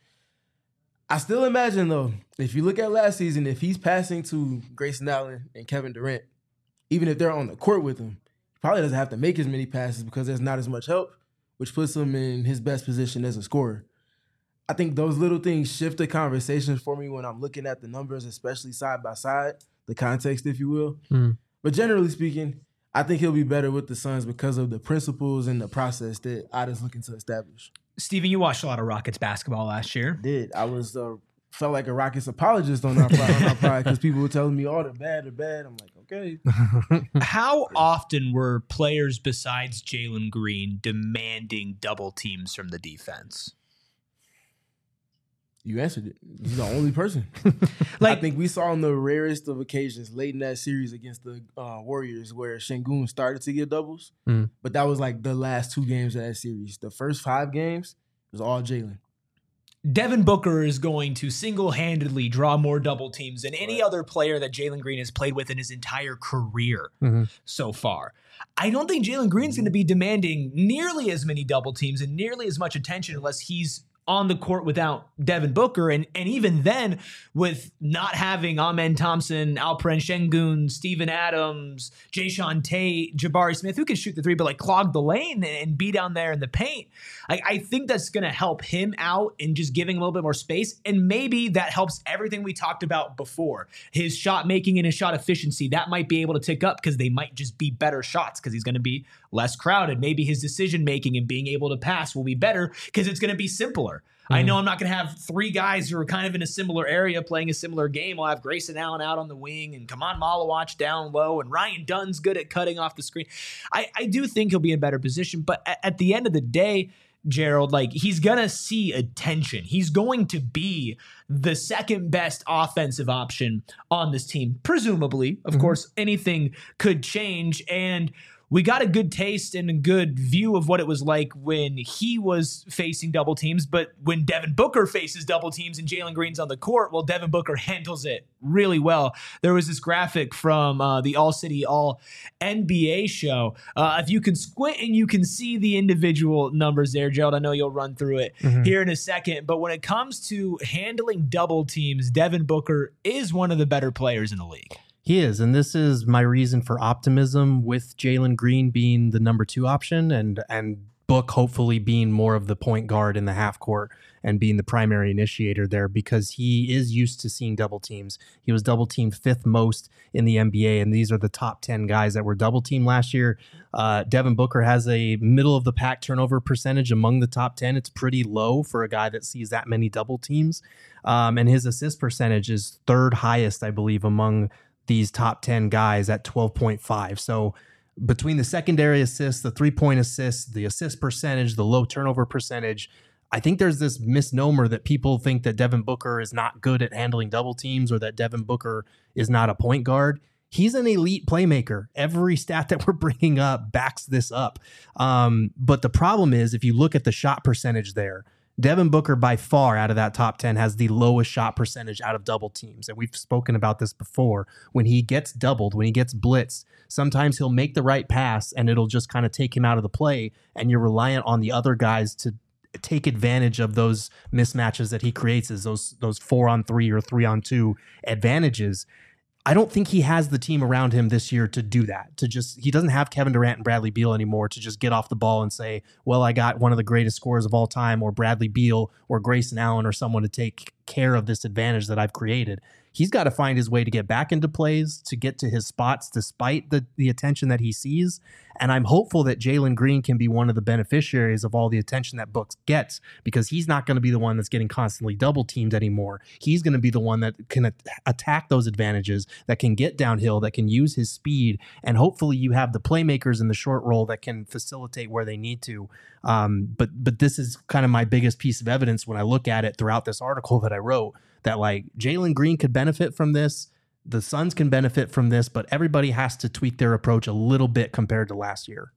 I still imagine, though, if you look at last season, if he's passing to Grayson Allen and Kevin Durant, even if they're on the court with him, probably doesn't have to make as many passes because there's not as much help, which puts him in his best position as a scorer. I think those little things shift the conversation for me when I'm looking at the numbers, especially side by side, the context, if you will. Mm. But generally speaking, I think he'll be better with the Suns because of the principles and the process that Otta's looking to establish. Steven, you watched a lot of Rockets basketball last year. I did. I was uh, felt like a Rockets apologist on our pride because people were telling me, oh, they're bad, they're bad. I'm like, okay. How often were players besides Jalen Green demanding double teams from the defense? You answered it. He's the only person. like, I think we saw on the rarest of occasions late in that series against the uh, Warriors where Şengün started to get doubles, mm. but that was like the last two games of that series. The first five games was all Jalen. Devin Booker is going to single-handedly draw more double teams than any other player that Jalen Green has played with in his entire career mm-hmm. so far. I don't think Jalen Green's going to be demanding nearly as many double teams and nearly as much attention unless he's on the court without Devin Booker. And, and even then, with not having Amen Thompson, Alperen Şengün, Steven Adams, Jayshawn Tate, Jabari Smith, who can shoot the three, but like clog the lane and be down there in the paint. I, I think that's going to help him out in just giving a little bit more space. And maybe that helps everything we talked about before. His shot making and his shot efficiency, that might be able to tick up because they might just be better shots because he's going to be less crowded. Maybe his decision making and being able to pass will be better because it's going to be simpler. Mm-hmm. I know I'm not going to have three guys who are kind of in a similar area playing a similar game. I'll have Grayson Allen out on the wing and Kaman Malawach down low and Ryan Dunn's good at cutting off the screen. I, I do think he'll be in a better position, but at, at the end of the day, Gerald, like he's going to see attention. He's going to be the second best offensive option on this team. Presumably, of mm-hmm. course, anything could change. And we got a good taste and a good view of what it was like when he was facing double teams. But when Devin Booker faces double teams and Jalen Green's on the court, well, Devin Booker handles it really well. There was this graphic from uh, the All City All N B A show. Uh, if you can squint and you can see the individual numbers there, Gerald, I know you'll run through it mm-hmm. here in a second. But when it comes to handling double teams, Devin Booker is one of the better players in the league. He is, and this is my reason for optimism with Jalen Green being the number two option and and Book hopefully being more of the point guard in the half court and being the primary initiator there, because he is used to seeing double teams. He was double teamed fifth most in the N B A, and these are the top ten guys that were double teamed last year. Uh, Devin Booker has a middle of the pack turnover percentage among the top ten. It's pretty low for a guy that sees that many double teams. Um, and his assist percentage is third highest, I believe, among these top ten guys at twelve point five. So between the secondary assists, the three-point assists, the assist percentage, the low turnover percentage, I think there's this misnomer that people think that Devin Booker is not good at handling double teams or that Devin Booker is not a point guard. He's an elite playmaker. Every stat that we're bringing up backs this up. Um, but the problem is, if you look at the shot percentage there, Devin Booker by far out of that top ten has the lowest shot percentage out of double teams. And we've spoken about this before. When he gets doubled, when he gets blitzed, sometimes he'll make the right pass and it'll just kind of take him out of the play. And you're reliant on the other guys to take advantage of those mismatches that he creates, as those, those four on three or three on two advantages. I don't think he has the team around him this year to do that, to just, he doesn't have Kevin Durant and Bradley Beal anymore to just get off the ball and say, well, I got one of the greatest scorers of all time, or Bradley Beal or Grayson Allen or someone to take care of this advantage that I've created. He's got to find his way to get back into plays, to get to his spots despite the, the attention that he sees. And I'm hopeful that Jalen Green can be one of the beneficiaries of all the attention that Books gets, because he's not going to be the one that's getting constantly double teamed anymore. He's going to be the one that can at- attack those advantages, that can get downhill, that can use his speed. And hopefully you have the playmakers in the short roll that can facilitate where they need to. Um, but but this is kind of my biggest piece of evidence when I look at it throughout this article that I wrote, that like Jalen Green could benefit from this. The Suns can benefit from this, but everybody has to tweak their approach a little bit compared to last year.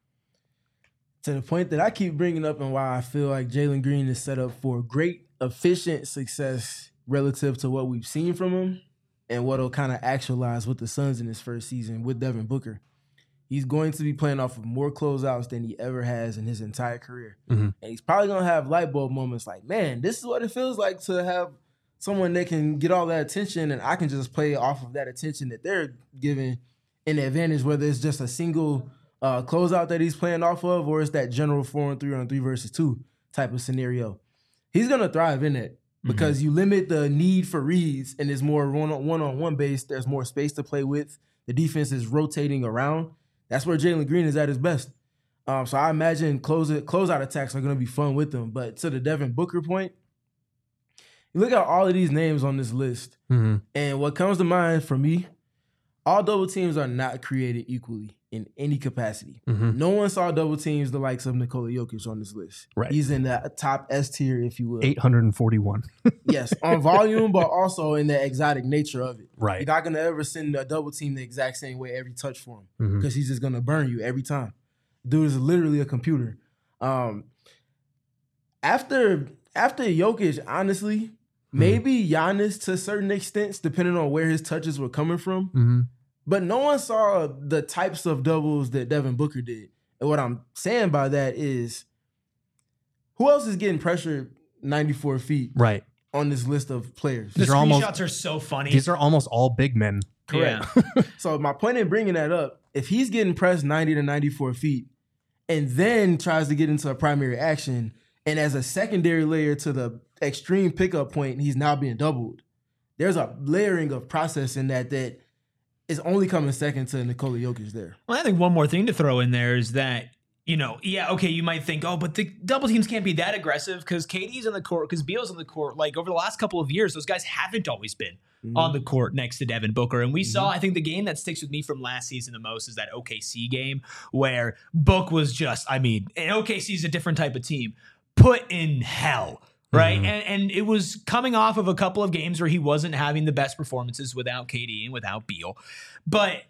To the point that I keep bringing up, and why I feel like Jalen Green is set up for great, efficient success relative to what we've seen from him and what will kind of actualize with the Suns in his first season with Devin Booker. He's going to be playing off of more closeouts than he ever has in his entire career. Mm-hmm. And he's probably going to have light bulb moments like, man, this is what it feels like to have someone that can get all that attention, and I can just play off of that attention that they're giving in the advantage, whether it's just a single uh, closeout that he's playing off of, or it's that general four and three on three versus two type of scenario. He's going to thrive in it because mm-hmm. you limit the need for reads, and it's more one-on-one based. There's more space to play with. The defense is rotating around. That's where Jalen Green is at his best. Um, so I imagine close it, closeout attacks are going to be fun with him. But to the Devin Booker point, you look at all of these names on this list, mm-hmm. and what comes to mind for me, all double teams are not created equally in any capacity. Mm-hmm. No one saw double teams the likes of Nikola Jokic on this list. Right. He's in that top S tier, if you will. eight hundred forty-one. Yes, on volume, but also in the exotic nature of it. Right. You're not going to ever send a double team the exact same way every touch for him, because mm-hmm. he's just going to burn you every time. Dude is literally a computer. Um, after after Jokic, honestly, maybe Giannis to certain extents, depending on where his touches were coming from. Mm-hmm. But no one saw the types of doubles that Devin Booker did. And what I'm saying by that is, who else is getting pressured ninety-four feet right on this list of players? The these screenshots are, almost, are so funny. These are almost all big men. Correct. Yeah. So my point in bringing that up, if he's getting pressed ninety to ninety-four feet and then tries to get into a primary action, and as a secondary layer to the extreme pickup point, he's now being doubled. There's a layering of process in that that is only coming second to Nikola Jokic there. Well, I think one more thing to throw in there is that, you know, yeah, okay, you might think, oh, but the double teams can't be that aggressive because K D's on the court, because Beal's on the court. Like, over the last couple of years, those guys haven't always been mm-hmm. on the court next to Devin Booker. And we mm-hmm. saw, I think the game that sticks with me from last season the most is that O K C game where Book was just, I mean, and O K C is a different type of team, put in hell. Right. Mm-hmm. And and it was coming off of a couple of games where he wasn't having the best performances without K D and without Beal. But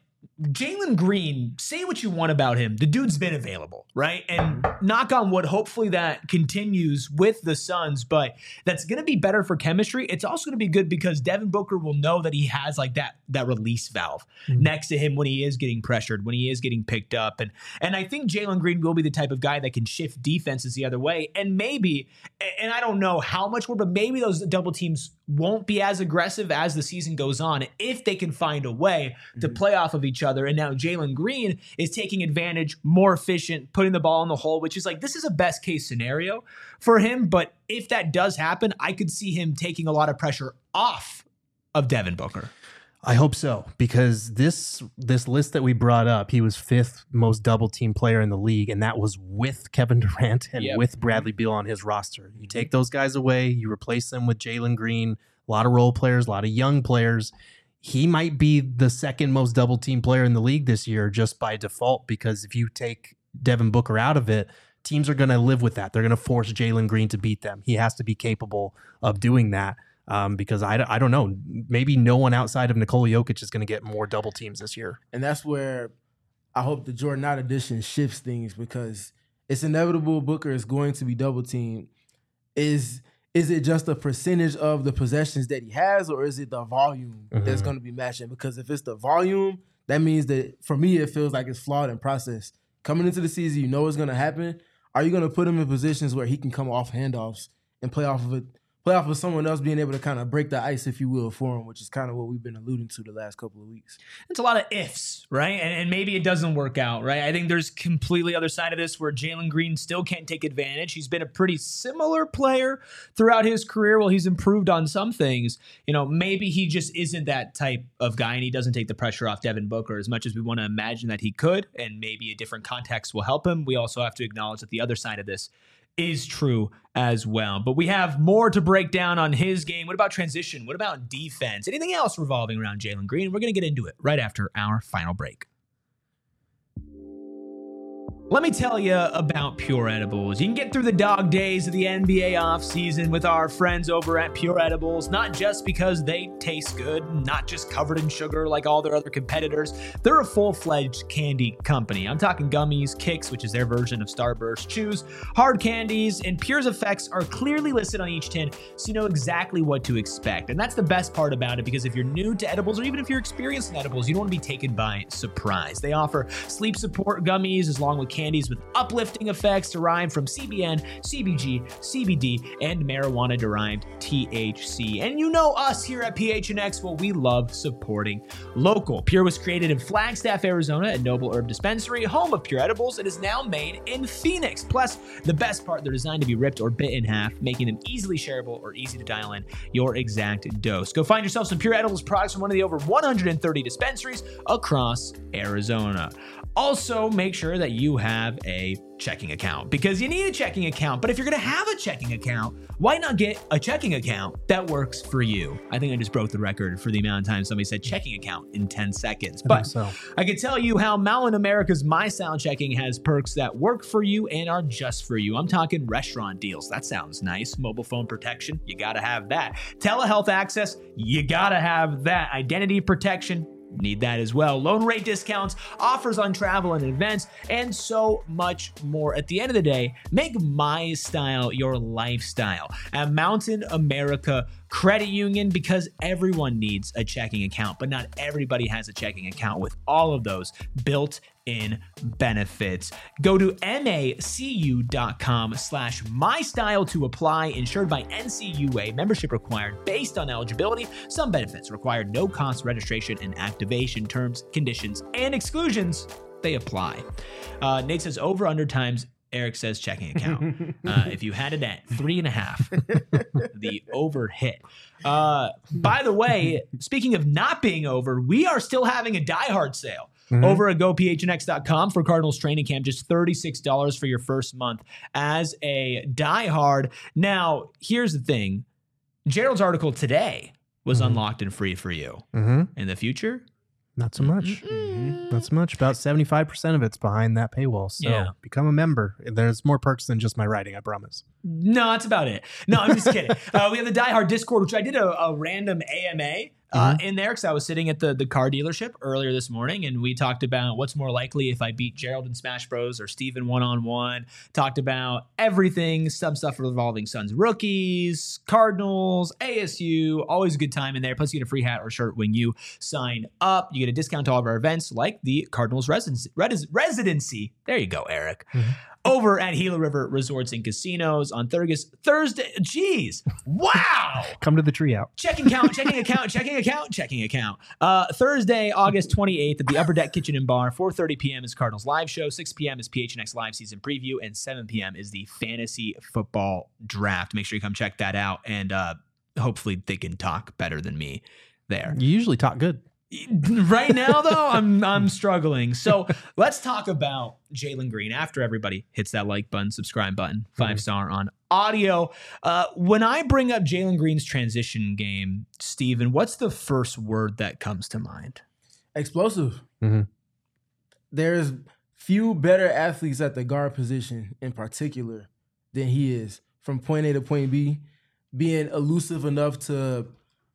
Jalen Green, say what you want about him. The dude's been available, right? And knock on wood, hopefully that continues with the Suns, but that's going to be better for chemistry. It's also going to be good because Devin Booker will know that he has like that that release valve mm-hmm. next to him when he is getting pressured, when he is getting picked up. And, and I think Jalen Green will be the type of guy that can shift defenses the other way. And maybe, and I don't know how much more, but maybe those double teams won't be as aggressive as the season goes on if they can find a way to mm-hmm. play off of each other. And now Jalen Green is taking advantage, more efficient, putting the ball in the hole, which is like, this is a best case scenario for him. But if that does happen, I could see him taking a lot of pressure off of Devin Booker. I hope so, because this this list that we brought up, he was fifth most double team player in the league, and that was with Kevin Durant and yep. with Bradley Beal on his roster. You take those guys away, you replace them with Jalen Green, a lot of role players, a lot of young players. He might be the second most double team player in the league this year just by default, because if you take Devin Booker out of it, teams are going to live with that. They're going to force Jalen Green to beat them. He has to be capable of doing that. Um, because I, I don't know, maybe no one outside of Nikola Jokic is going to get more double teams this year. And that's where I hope the Jordan Knight edition shifts things, because it's inevitable Booker is going to be double teamed. Is is it just a percentage of the possessions that he has, or is it the volume mm-hmm. that's going to be matching? Because if it's the volume, that means that for me it feels like it's flawed in process. Coming into the season, you know what's going to happen. Are you going to put him in positions where he can come off handoffs and play off of it? Play off of someone else being able to kind of break the ice, if you will, for him, which is kind of what we've been alluding to the last couple of weeks. It's a lot of ifs, right? And, and maybe it doesn't work out, right? I think there's completely other side of this where Jalen Green still can't take advantage. He's been a pretty similar player throughout his career. Well, he's improved on some things. You know, maybe he just isn't that type of guy, and he doesn't take the pressure off Devin Booker as much as we want to imagine that he could, and maybe a different context will help him. We also have to acknowledge that the other side of this is true as well. But we have more to break down on his game. What about transition? What about defense? Anything else revolving around Jalen Green? We're going to get into it right after our final break. Let me tell you about Pure Edibles. You can get through the dog days of the N B A offseason with our friends over at Pure Edibles, not just because they taste good, not just covered in sugar like all their other competitors. They're a full-fledged candy company. I'm talking gummies, Kicks, which is their version of Starburst, chews, hard candies, and Pure's effects are clearly listed on each tin, so you know exactly what to expect. And that's the best part about it, because if you're new to edibles, or even if you're experienced in edibles, you don't want to be taken by surprise. They offer sleep support gummies as long with candy candies with uplifting effects derived from C B N, C B G, C B D, and marijuana-derived T H C. And you know us here at P H N X, well, we love supporting local. Pure was created in Flagstaff, Arizona at Noble Herb Dispensary, home of Pure Edibles. It is now made in Phoenix. Plus, the best part, they're designed to be ripped or bit in half, making them easily shareable or easy to dial in your exact dose. Go find yourself some Pure Edibles products from one of the over one hundred thirty dispensaries across Arizona. Also, make sure that you have a checking account, because you need a checking account. But if you're going to have a checking account, why not get a checking account that works for you? I think I just broke the record for the amount of time somebody said checking account in ten seconds. I but so. I can tell you how Malin America's My Style Checking has perks that work for you and are just for you. I'm talking restaurant deals. That sounds nice. Mobile phone protection. You got to have that. Telehealth access. You got to have that. Identity protection. Need that as well. Loan rate discounts, offers on travel and events, and so much more. At the end of the day, make My Style your lifestyle at Mountain America Credit Union, because everyone needs a checking account, but not everybody has a checking account with all of those built-in benefits. Go to macu.com slash mystyle to apply. Insured by N C U A. Membership required based on eligibility. Some benefits required. No cost registration and activation. Terms, conditions, and exclusions, they apply. Uh, Nate says over under times. Eric says checking account. Uh, if you had it at three and a half, the over hit. Uh, by the way, speaking of not being over, we are still having a Die Hard sale mm-hmm. over at go p h n x dot com for Cardinals training camp. Just thirty-six dollars for your first month as a Die Hard. Now, here's the thing. Gerald's article today was mm-hmm. unlocked and free for you. Mm-hmm. In the future, Not so much. Mm-hmm. Not so much. About seventy-five percent of it's behind that paywall. So yeah. become a member. There's more perks than just my writing, I promise. No, that's about it. No, I'm just kidding. Uh, we have the Die Hard Discord, which I did a, a random A M A uh, in there because I was sitting at the, the car dealership earlier this morning, and we talked about what's more likely if I beat Gerald in Smash Bros. Or Steven one-on-one. Talked about everything, some stuff revolving Suns rookies, Cardinals, A S U. Always a good time in there. Plus, you get a free hat or shirt when you sign up. You get a discount to all of our events like the Cardinals residency. Res- residency. There you go, Eric. Mm-hmm. Over at Gila River Resorts and Casinos on Thursday. Thursday. Jeez. Wow. Come to the tree out. Checking account, checking account, checking account, checking account. Uh, Thursday, August twenty-eighth at the Upper Deck Kitchen and Bar. four thirty p.m. is Cardinals live show. six p.m. is P H N X live season preview. And seven p.m. is the fantasy football draft. Make sure you come check that out. And uh, hopefully they can talk better than me there. You usually talk good. Right now, though, I'm I'm struggling. So let's talk about Jalen Green after everybody hits that like button, subscribe button, five star on audio. Uh, when I bring up Jalen Green's transition game, Steven, what's the first word that comes to mind? Explosive. Mm-hmm. There's few better athletes at the guard position in particular than he is. From point A to point B, being elusive enough to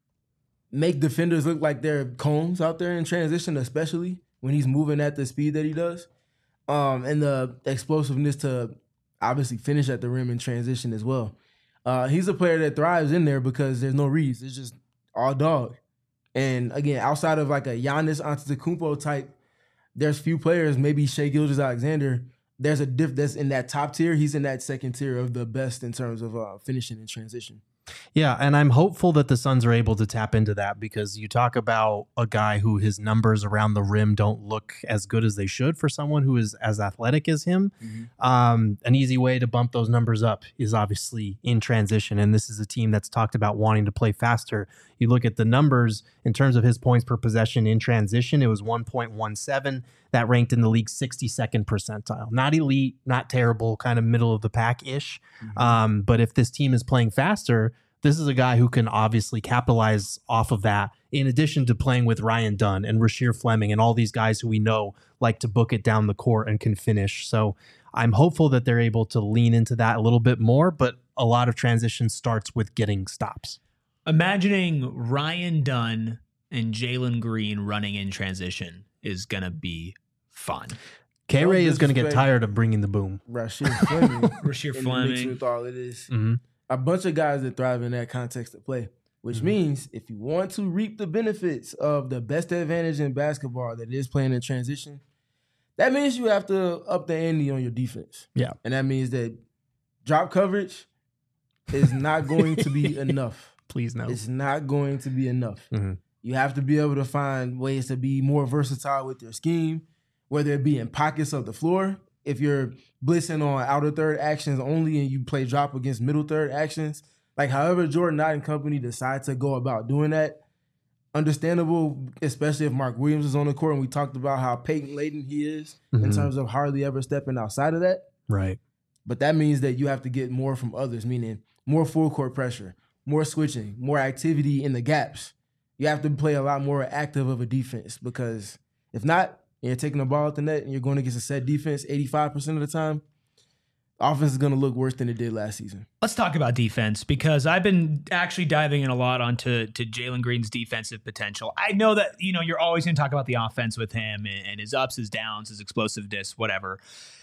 make defenders look like they're cones out there in transition, especially when he's moving at the speed that he does. Um, and the explosiveness to obviously finish at the rim in transition as well. Uh, he's a player that thrives in there because there's no reads. It's just all dog. And again, outside of like a Giannis Antetokounmpo type, there's few players, maybe Shai Gilgeous-Alexander, there's a diff that's in that top tier. He's in that second tier of the best in terms of uh, finishing in transition. Yeah, and I'm hopeful that the Suns are able to tap into that because you talk about a guy who his numbers around the rim don't look as good as they should for someone who is as athletic as him. Mm-hmm. Um, an easy way to bump those numbers up is obviously in transition, and this is a team that's talked about wanting to play faster. You look at the numbers in terms of his points per possession in transition, it was one point one seven. That ranked in the league sixty-second percentile. Not elite, not terrible, kind of middle of the pack-ish. Mm-hmm. Um, but if this team is playing faster, this is a guy who can obviously capitalize off of that, in addition to playing with Ryan Dunn and Rasheer Fleming and all these guys who we know like to book it down the court and can finish. So I'm hopeful that they're able to lean into that a little bit more, but a lot of transition starts with getting stops. Imagining Ryan Dunn and Jalen Green running in transition is going to be fun. K-Ray is going to get tired of bringing the boom. Rasheer Fleming. Rasheer Fleming. With all of this. Mm-hmm. A bunch of guys that thrive in that context of play, which mm-hmm. means if you want to reap the benefits of the best advantage in basketball that is playing in transition, that means you have to up the ante on your defense. Yeah. And that means that drop coverage is not going to be enough. Please no. It's not going to be enough. Mm-hmm. You have to be able to find ways to be more versatile with your scheme, whether it be in pockets of the floor. If you're blitzing on outer third actions only and you play drop against middle third actions, like however Jordan Knight and company decide to go about doing that, understandable, especially if Mark Williams is on the court and we talked about how patent-laden he is mm-hmm. in terms of hardly ever stepping outside of that. Right. But that means that you have to get more from others, meaning more full court pressure, more switching, more activity in the gaps. You have to play a lot more active of a defense because if not, you're taking the ball at the net and you're going against a set defense eighty-five percent of the time, offense is going to look worse than it did last season. Let's talk about defense because I've been actually diving in a lot onto to Jalen Green's defensive potential. I know that, you know, you're always going to talk about the offense with him and, and his ups, his downs, his explosiveness, whatever.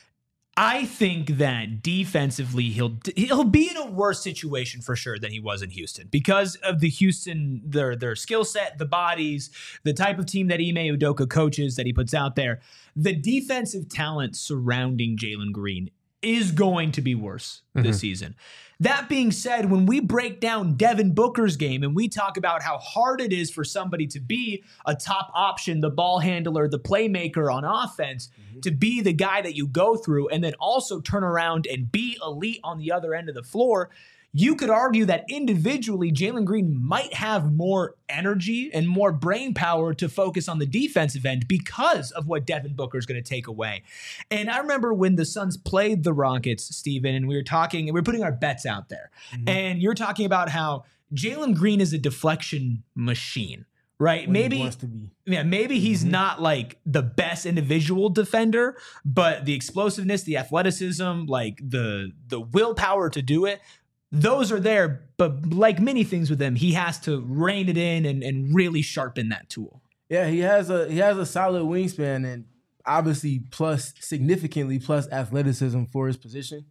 I think that defensively he'll he'll be in a worse situation for sure than he was in Houston because of the Houston, their their skill set, the bodies, the type of team that Ime Udoka coaches that he puts out there. The defensive talent surrounding Jalen Green is going to be worse mm-hmm. this season. That being said, when we break down Devin Booker's game and we talk about how hard it is for somebody to be a top option, the ball handler, the playmaker on offense, mm-hmm. to be the guy that you go through and then also turn around and be elite on the other end of the floor, you could argue that individually, Jalen Green might have more energy and more brain power to focus on the defensive end because of what Devin Booker is going to take away. And I remember when the Suns played the Rockets, Steven, and we were talking, and we were putting our bets out there. Mm-hmm. And you're talking about how Jalen Green is a deflection machine. Right. When maybe he wants to be. Yeah, maybe he's mm-hmm. not like the best individual defender, but the explosiveness, the athleticism, like the the willpower to do it, those are there, but like many things with him, he has to rein it in and, and really sharpen that tool. Yeah, he has a he has a solid wingspan and obviously plus significantly plus athleticism for his position.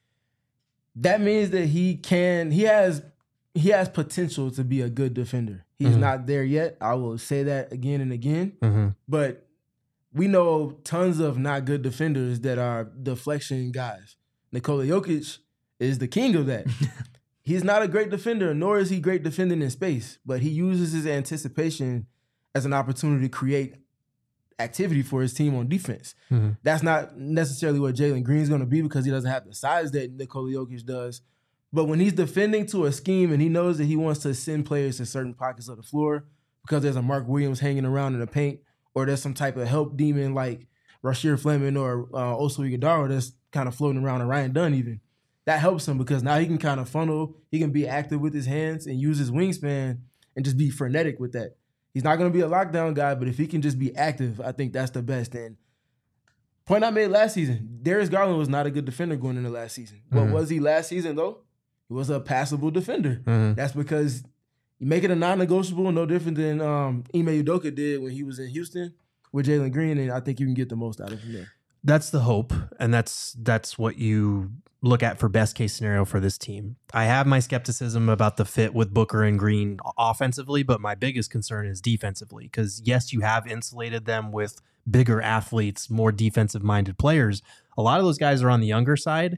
That means that he can he has he has potential to be a good defender. He's mm-hmm. not there yet. I will say that again and again. Mm-hmm. But we know tons of not good defenders that are deflection guys. Nikola Jokic is the king of that. He's not a great defender, nor is he great defending in space, but he uses his anticipation as an opportunity to create activity for his team on defense. Mm-hmm. That's not necessarily what Jalen Green's going to be because he doesn't have the size that Nikola Jokic does. But when he's defending to a scheme and he knows that he wants to send players to certain pockets of the floor because there's a Mark Williams hanging around in the paint or there's some type of help demon like Rasheer Fleming or uh, Oso Ighodaro that's kind of floating around, or Ryan Dunn even, that helps him because now he can kind of funnel, he can be active with his hands and use his wingspan and just be frenetic with that. He's not going to be a lockdown guy, but if he can just be active, I think that's the best. And point I made last season, Darius Garland was not a good defender going into last season. Mm-hmm. What was he last season, though? He was a passable defender. Mm-hmm. That's because you make it a non-negotiable, no different than um, Ime Udoka did when he was in Houston with Jalen Green, and I think you can get the most out of him there. That's the hope, and that's that's what you look at for best case scenario for this team. I have my skepticism about the fit with Booker and Green offensively, but my biggest concern is defensively because, yes, you have insulated them with bigger athletes, more defensive-minded players. A lot of those guys are on the younger side,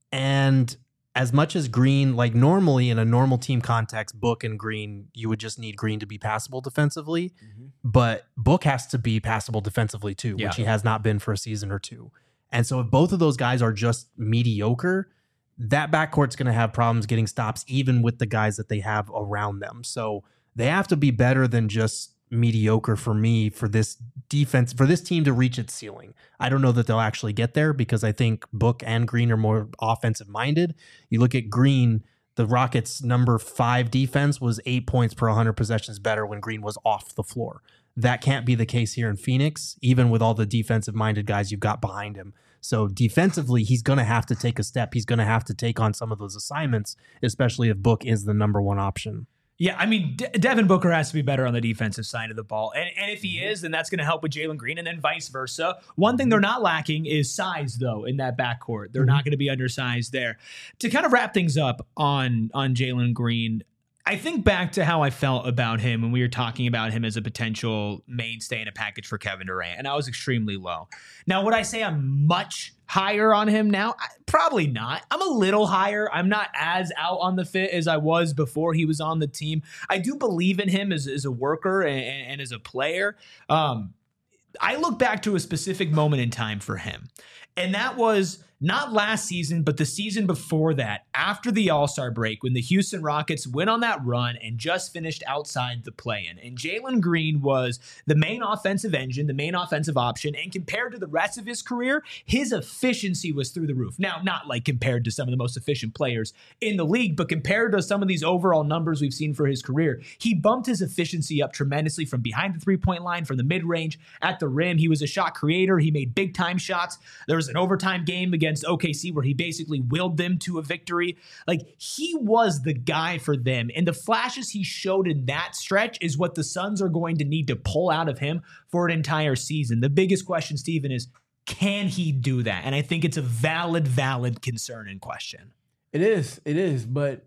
and as much as Green, like normally in a normal team context, Book and Green, you would just need Green to be passable defensively, mm-hmm. but Book has to be passable defensively too, yeah. which he has not been for a season or two. And so if both of those guys are just mediocre, that backcourt's going to have problems getting stops, even with the guys that they have around them. So they have to be better than just mediocre for me for this defense, for this team to reach its ceiling. I don't know that they'll actually get there because I think Book and Green are more offensive minded. You look at Green, the Rockets' number five defense was eight points per one hundred possessions better when Green was off the floor. That can't be the case here in Phoenix, even with all the defensive-minded guys you've got behind him. So defensively, he's going to have to take a step. He's going to have to take on some of those assignments, especially if Book is the number one option. Yeah, I mean, De- Devin Booker has to be better on the defensive side of the ball. And, and if he is, then that's going to help with Jalen Green and then vice versa. One thing they're not lacking is size, though, in that backcourt. They're mm-hmm. not going to be undersized there. To kind of wrap things up on, on Jalen Green, I think back to how I felt about him when we were talking about him as a potential mainstay in a package for Kevin Durant, and I was extremely low. Now, would I say I'm much higher on him now? I, probably not. I'm a little higher. I'm not as out on the fit as I was before he was on the team. I do believe in him as, as a worker and, and as a player. Um, I look back to a specific moment in time for him, and that was not last season, but the season before that, after the All-Star break, when the Houston Rockets went on that run and just finished outside the play-in. And Jalen Green was the main offensive engine, the main offensive option, and compared to the rest of his career, his efficiency was through the roof. Now, not like compared to some of the most efficient players in the league, but compared to some of these overall numbers we've seen for his career, he bumped his efficiency up tremendously from behind the three-point line, from the mid-range, at the rim. He was a shot creator. He made big-time shots. There was an overtime game against O K C where he basically willed them to a victory. Like, he was the guy for them. And the flashes he showed in that stretch is what the Suns are going to need to pull out of him for an entire season. The biggest question, Stephen, is can he do that? And I think it's a valid, valid concern and question. It is. It is. But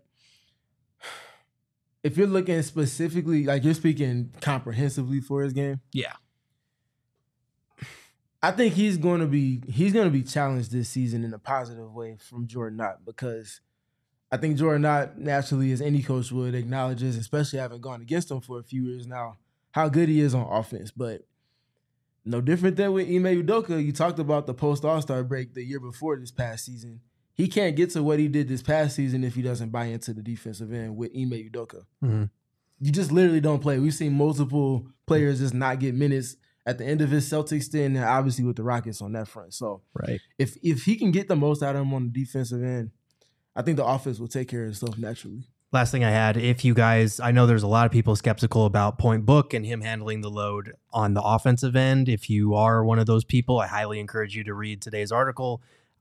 if you're looking specifically, like you're speaking comprehensively for his game. Yeah. I think he's going to be he's going to be challenged this season in a positive way from Jordan Knott, because I think Jordan Knott naturally, as any coach would, acknowledges, especially having gone against him for a few years now, how good he is on offense. But no different than with Ime Udoka. You talked about the post All-Star break the year before this past season. He can't get to what he did this past season if he doesn't buy into the defensive end with Ime Udoka. Mm-hmm. You just literally don't play. We've seen multiple players just not get minutes at the end of his Celtics stint, and obviously with the Rockets on that front. So right. if if he can get the most out of him on the defensive end, I think the offense will take care of itself naturally. Last thing I had, if you guys, I know there's a lot of people skeptical about Point Book and him handling the load on the offensive end. If you are one of those people, I highly encourage you to read today's article.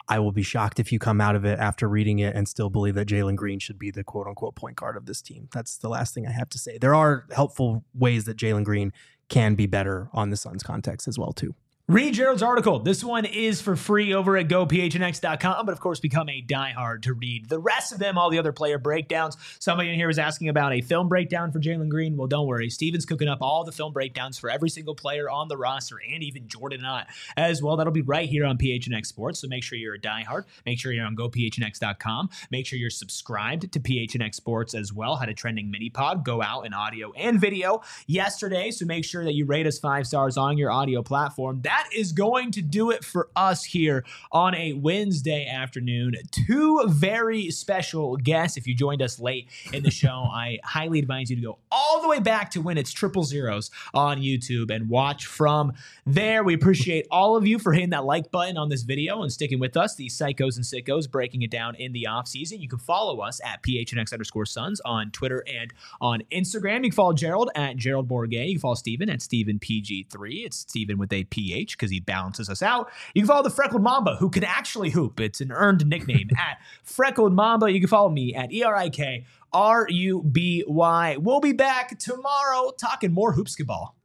I will be shocked if you come out of it after reading it and still believe that Jalen Green should be the quote unquote point guard of this team. That's the last thing I have to say. There are helpful ways that Jalen Green can be better on the Suns context as well, too. Read Gerald's article. This one is for free over at go p h n x dot com, but of course become a diehard to read the rest of them, all the other player breakdowns. Somebody in here was asking about a film breakdown for Jalen Green. Well, don't worry. Steven's cooking up all the film breakdowns for every single player on the roster and even Jordan Knott as well. That'll be right here on P H N X Sports, so make sure you're a diehard. Make sure you're on go p h n x dot com. Make sure you're subscribed to P H N X Sports as well. Had a trending mini pod go out in audio and video yesterday, so make sure that you rate us five stars on your audio platform. That is going to do it for us here on a Wednesday afternoon. Two very special guests. If you joined us late in the show, I highly advise you to go all the way back to when it's triple zeros on YouTube and watch from there. We appreciate all of you for hitting that like button on this video and sticking with us, the Psychos and Sickos, breaking it down in the offseason. You can follow us at P H N X underscore Suns on Twitter and on Instagram. You can follow Gerald at Gerald Bourget. You can follow Steven at Steven P G three. It's Steven with a P H because he balances us out. You can follow the Freckled Mamba, who can actually hoop. It's an earned nickname at Freckled Mamba. You can follow me at E R I K R U B Y. We'll be back tomorrow talking more hoopsketball.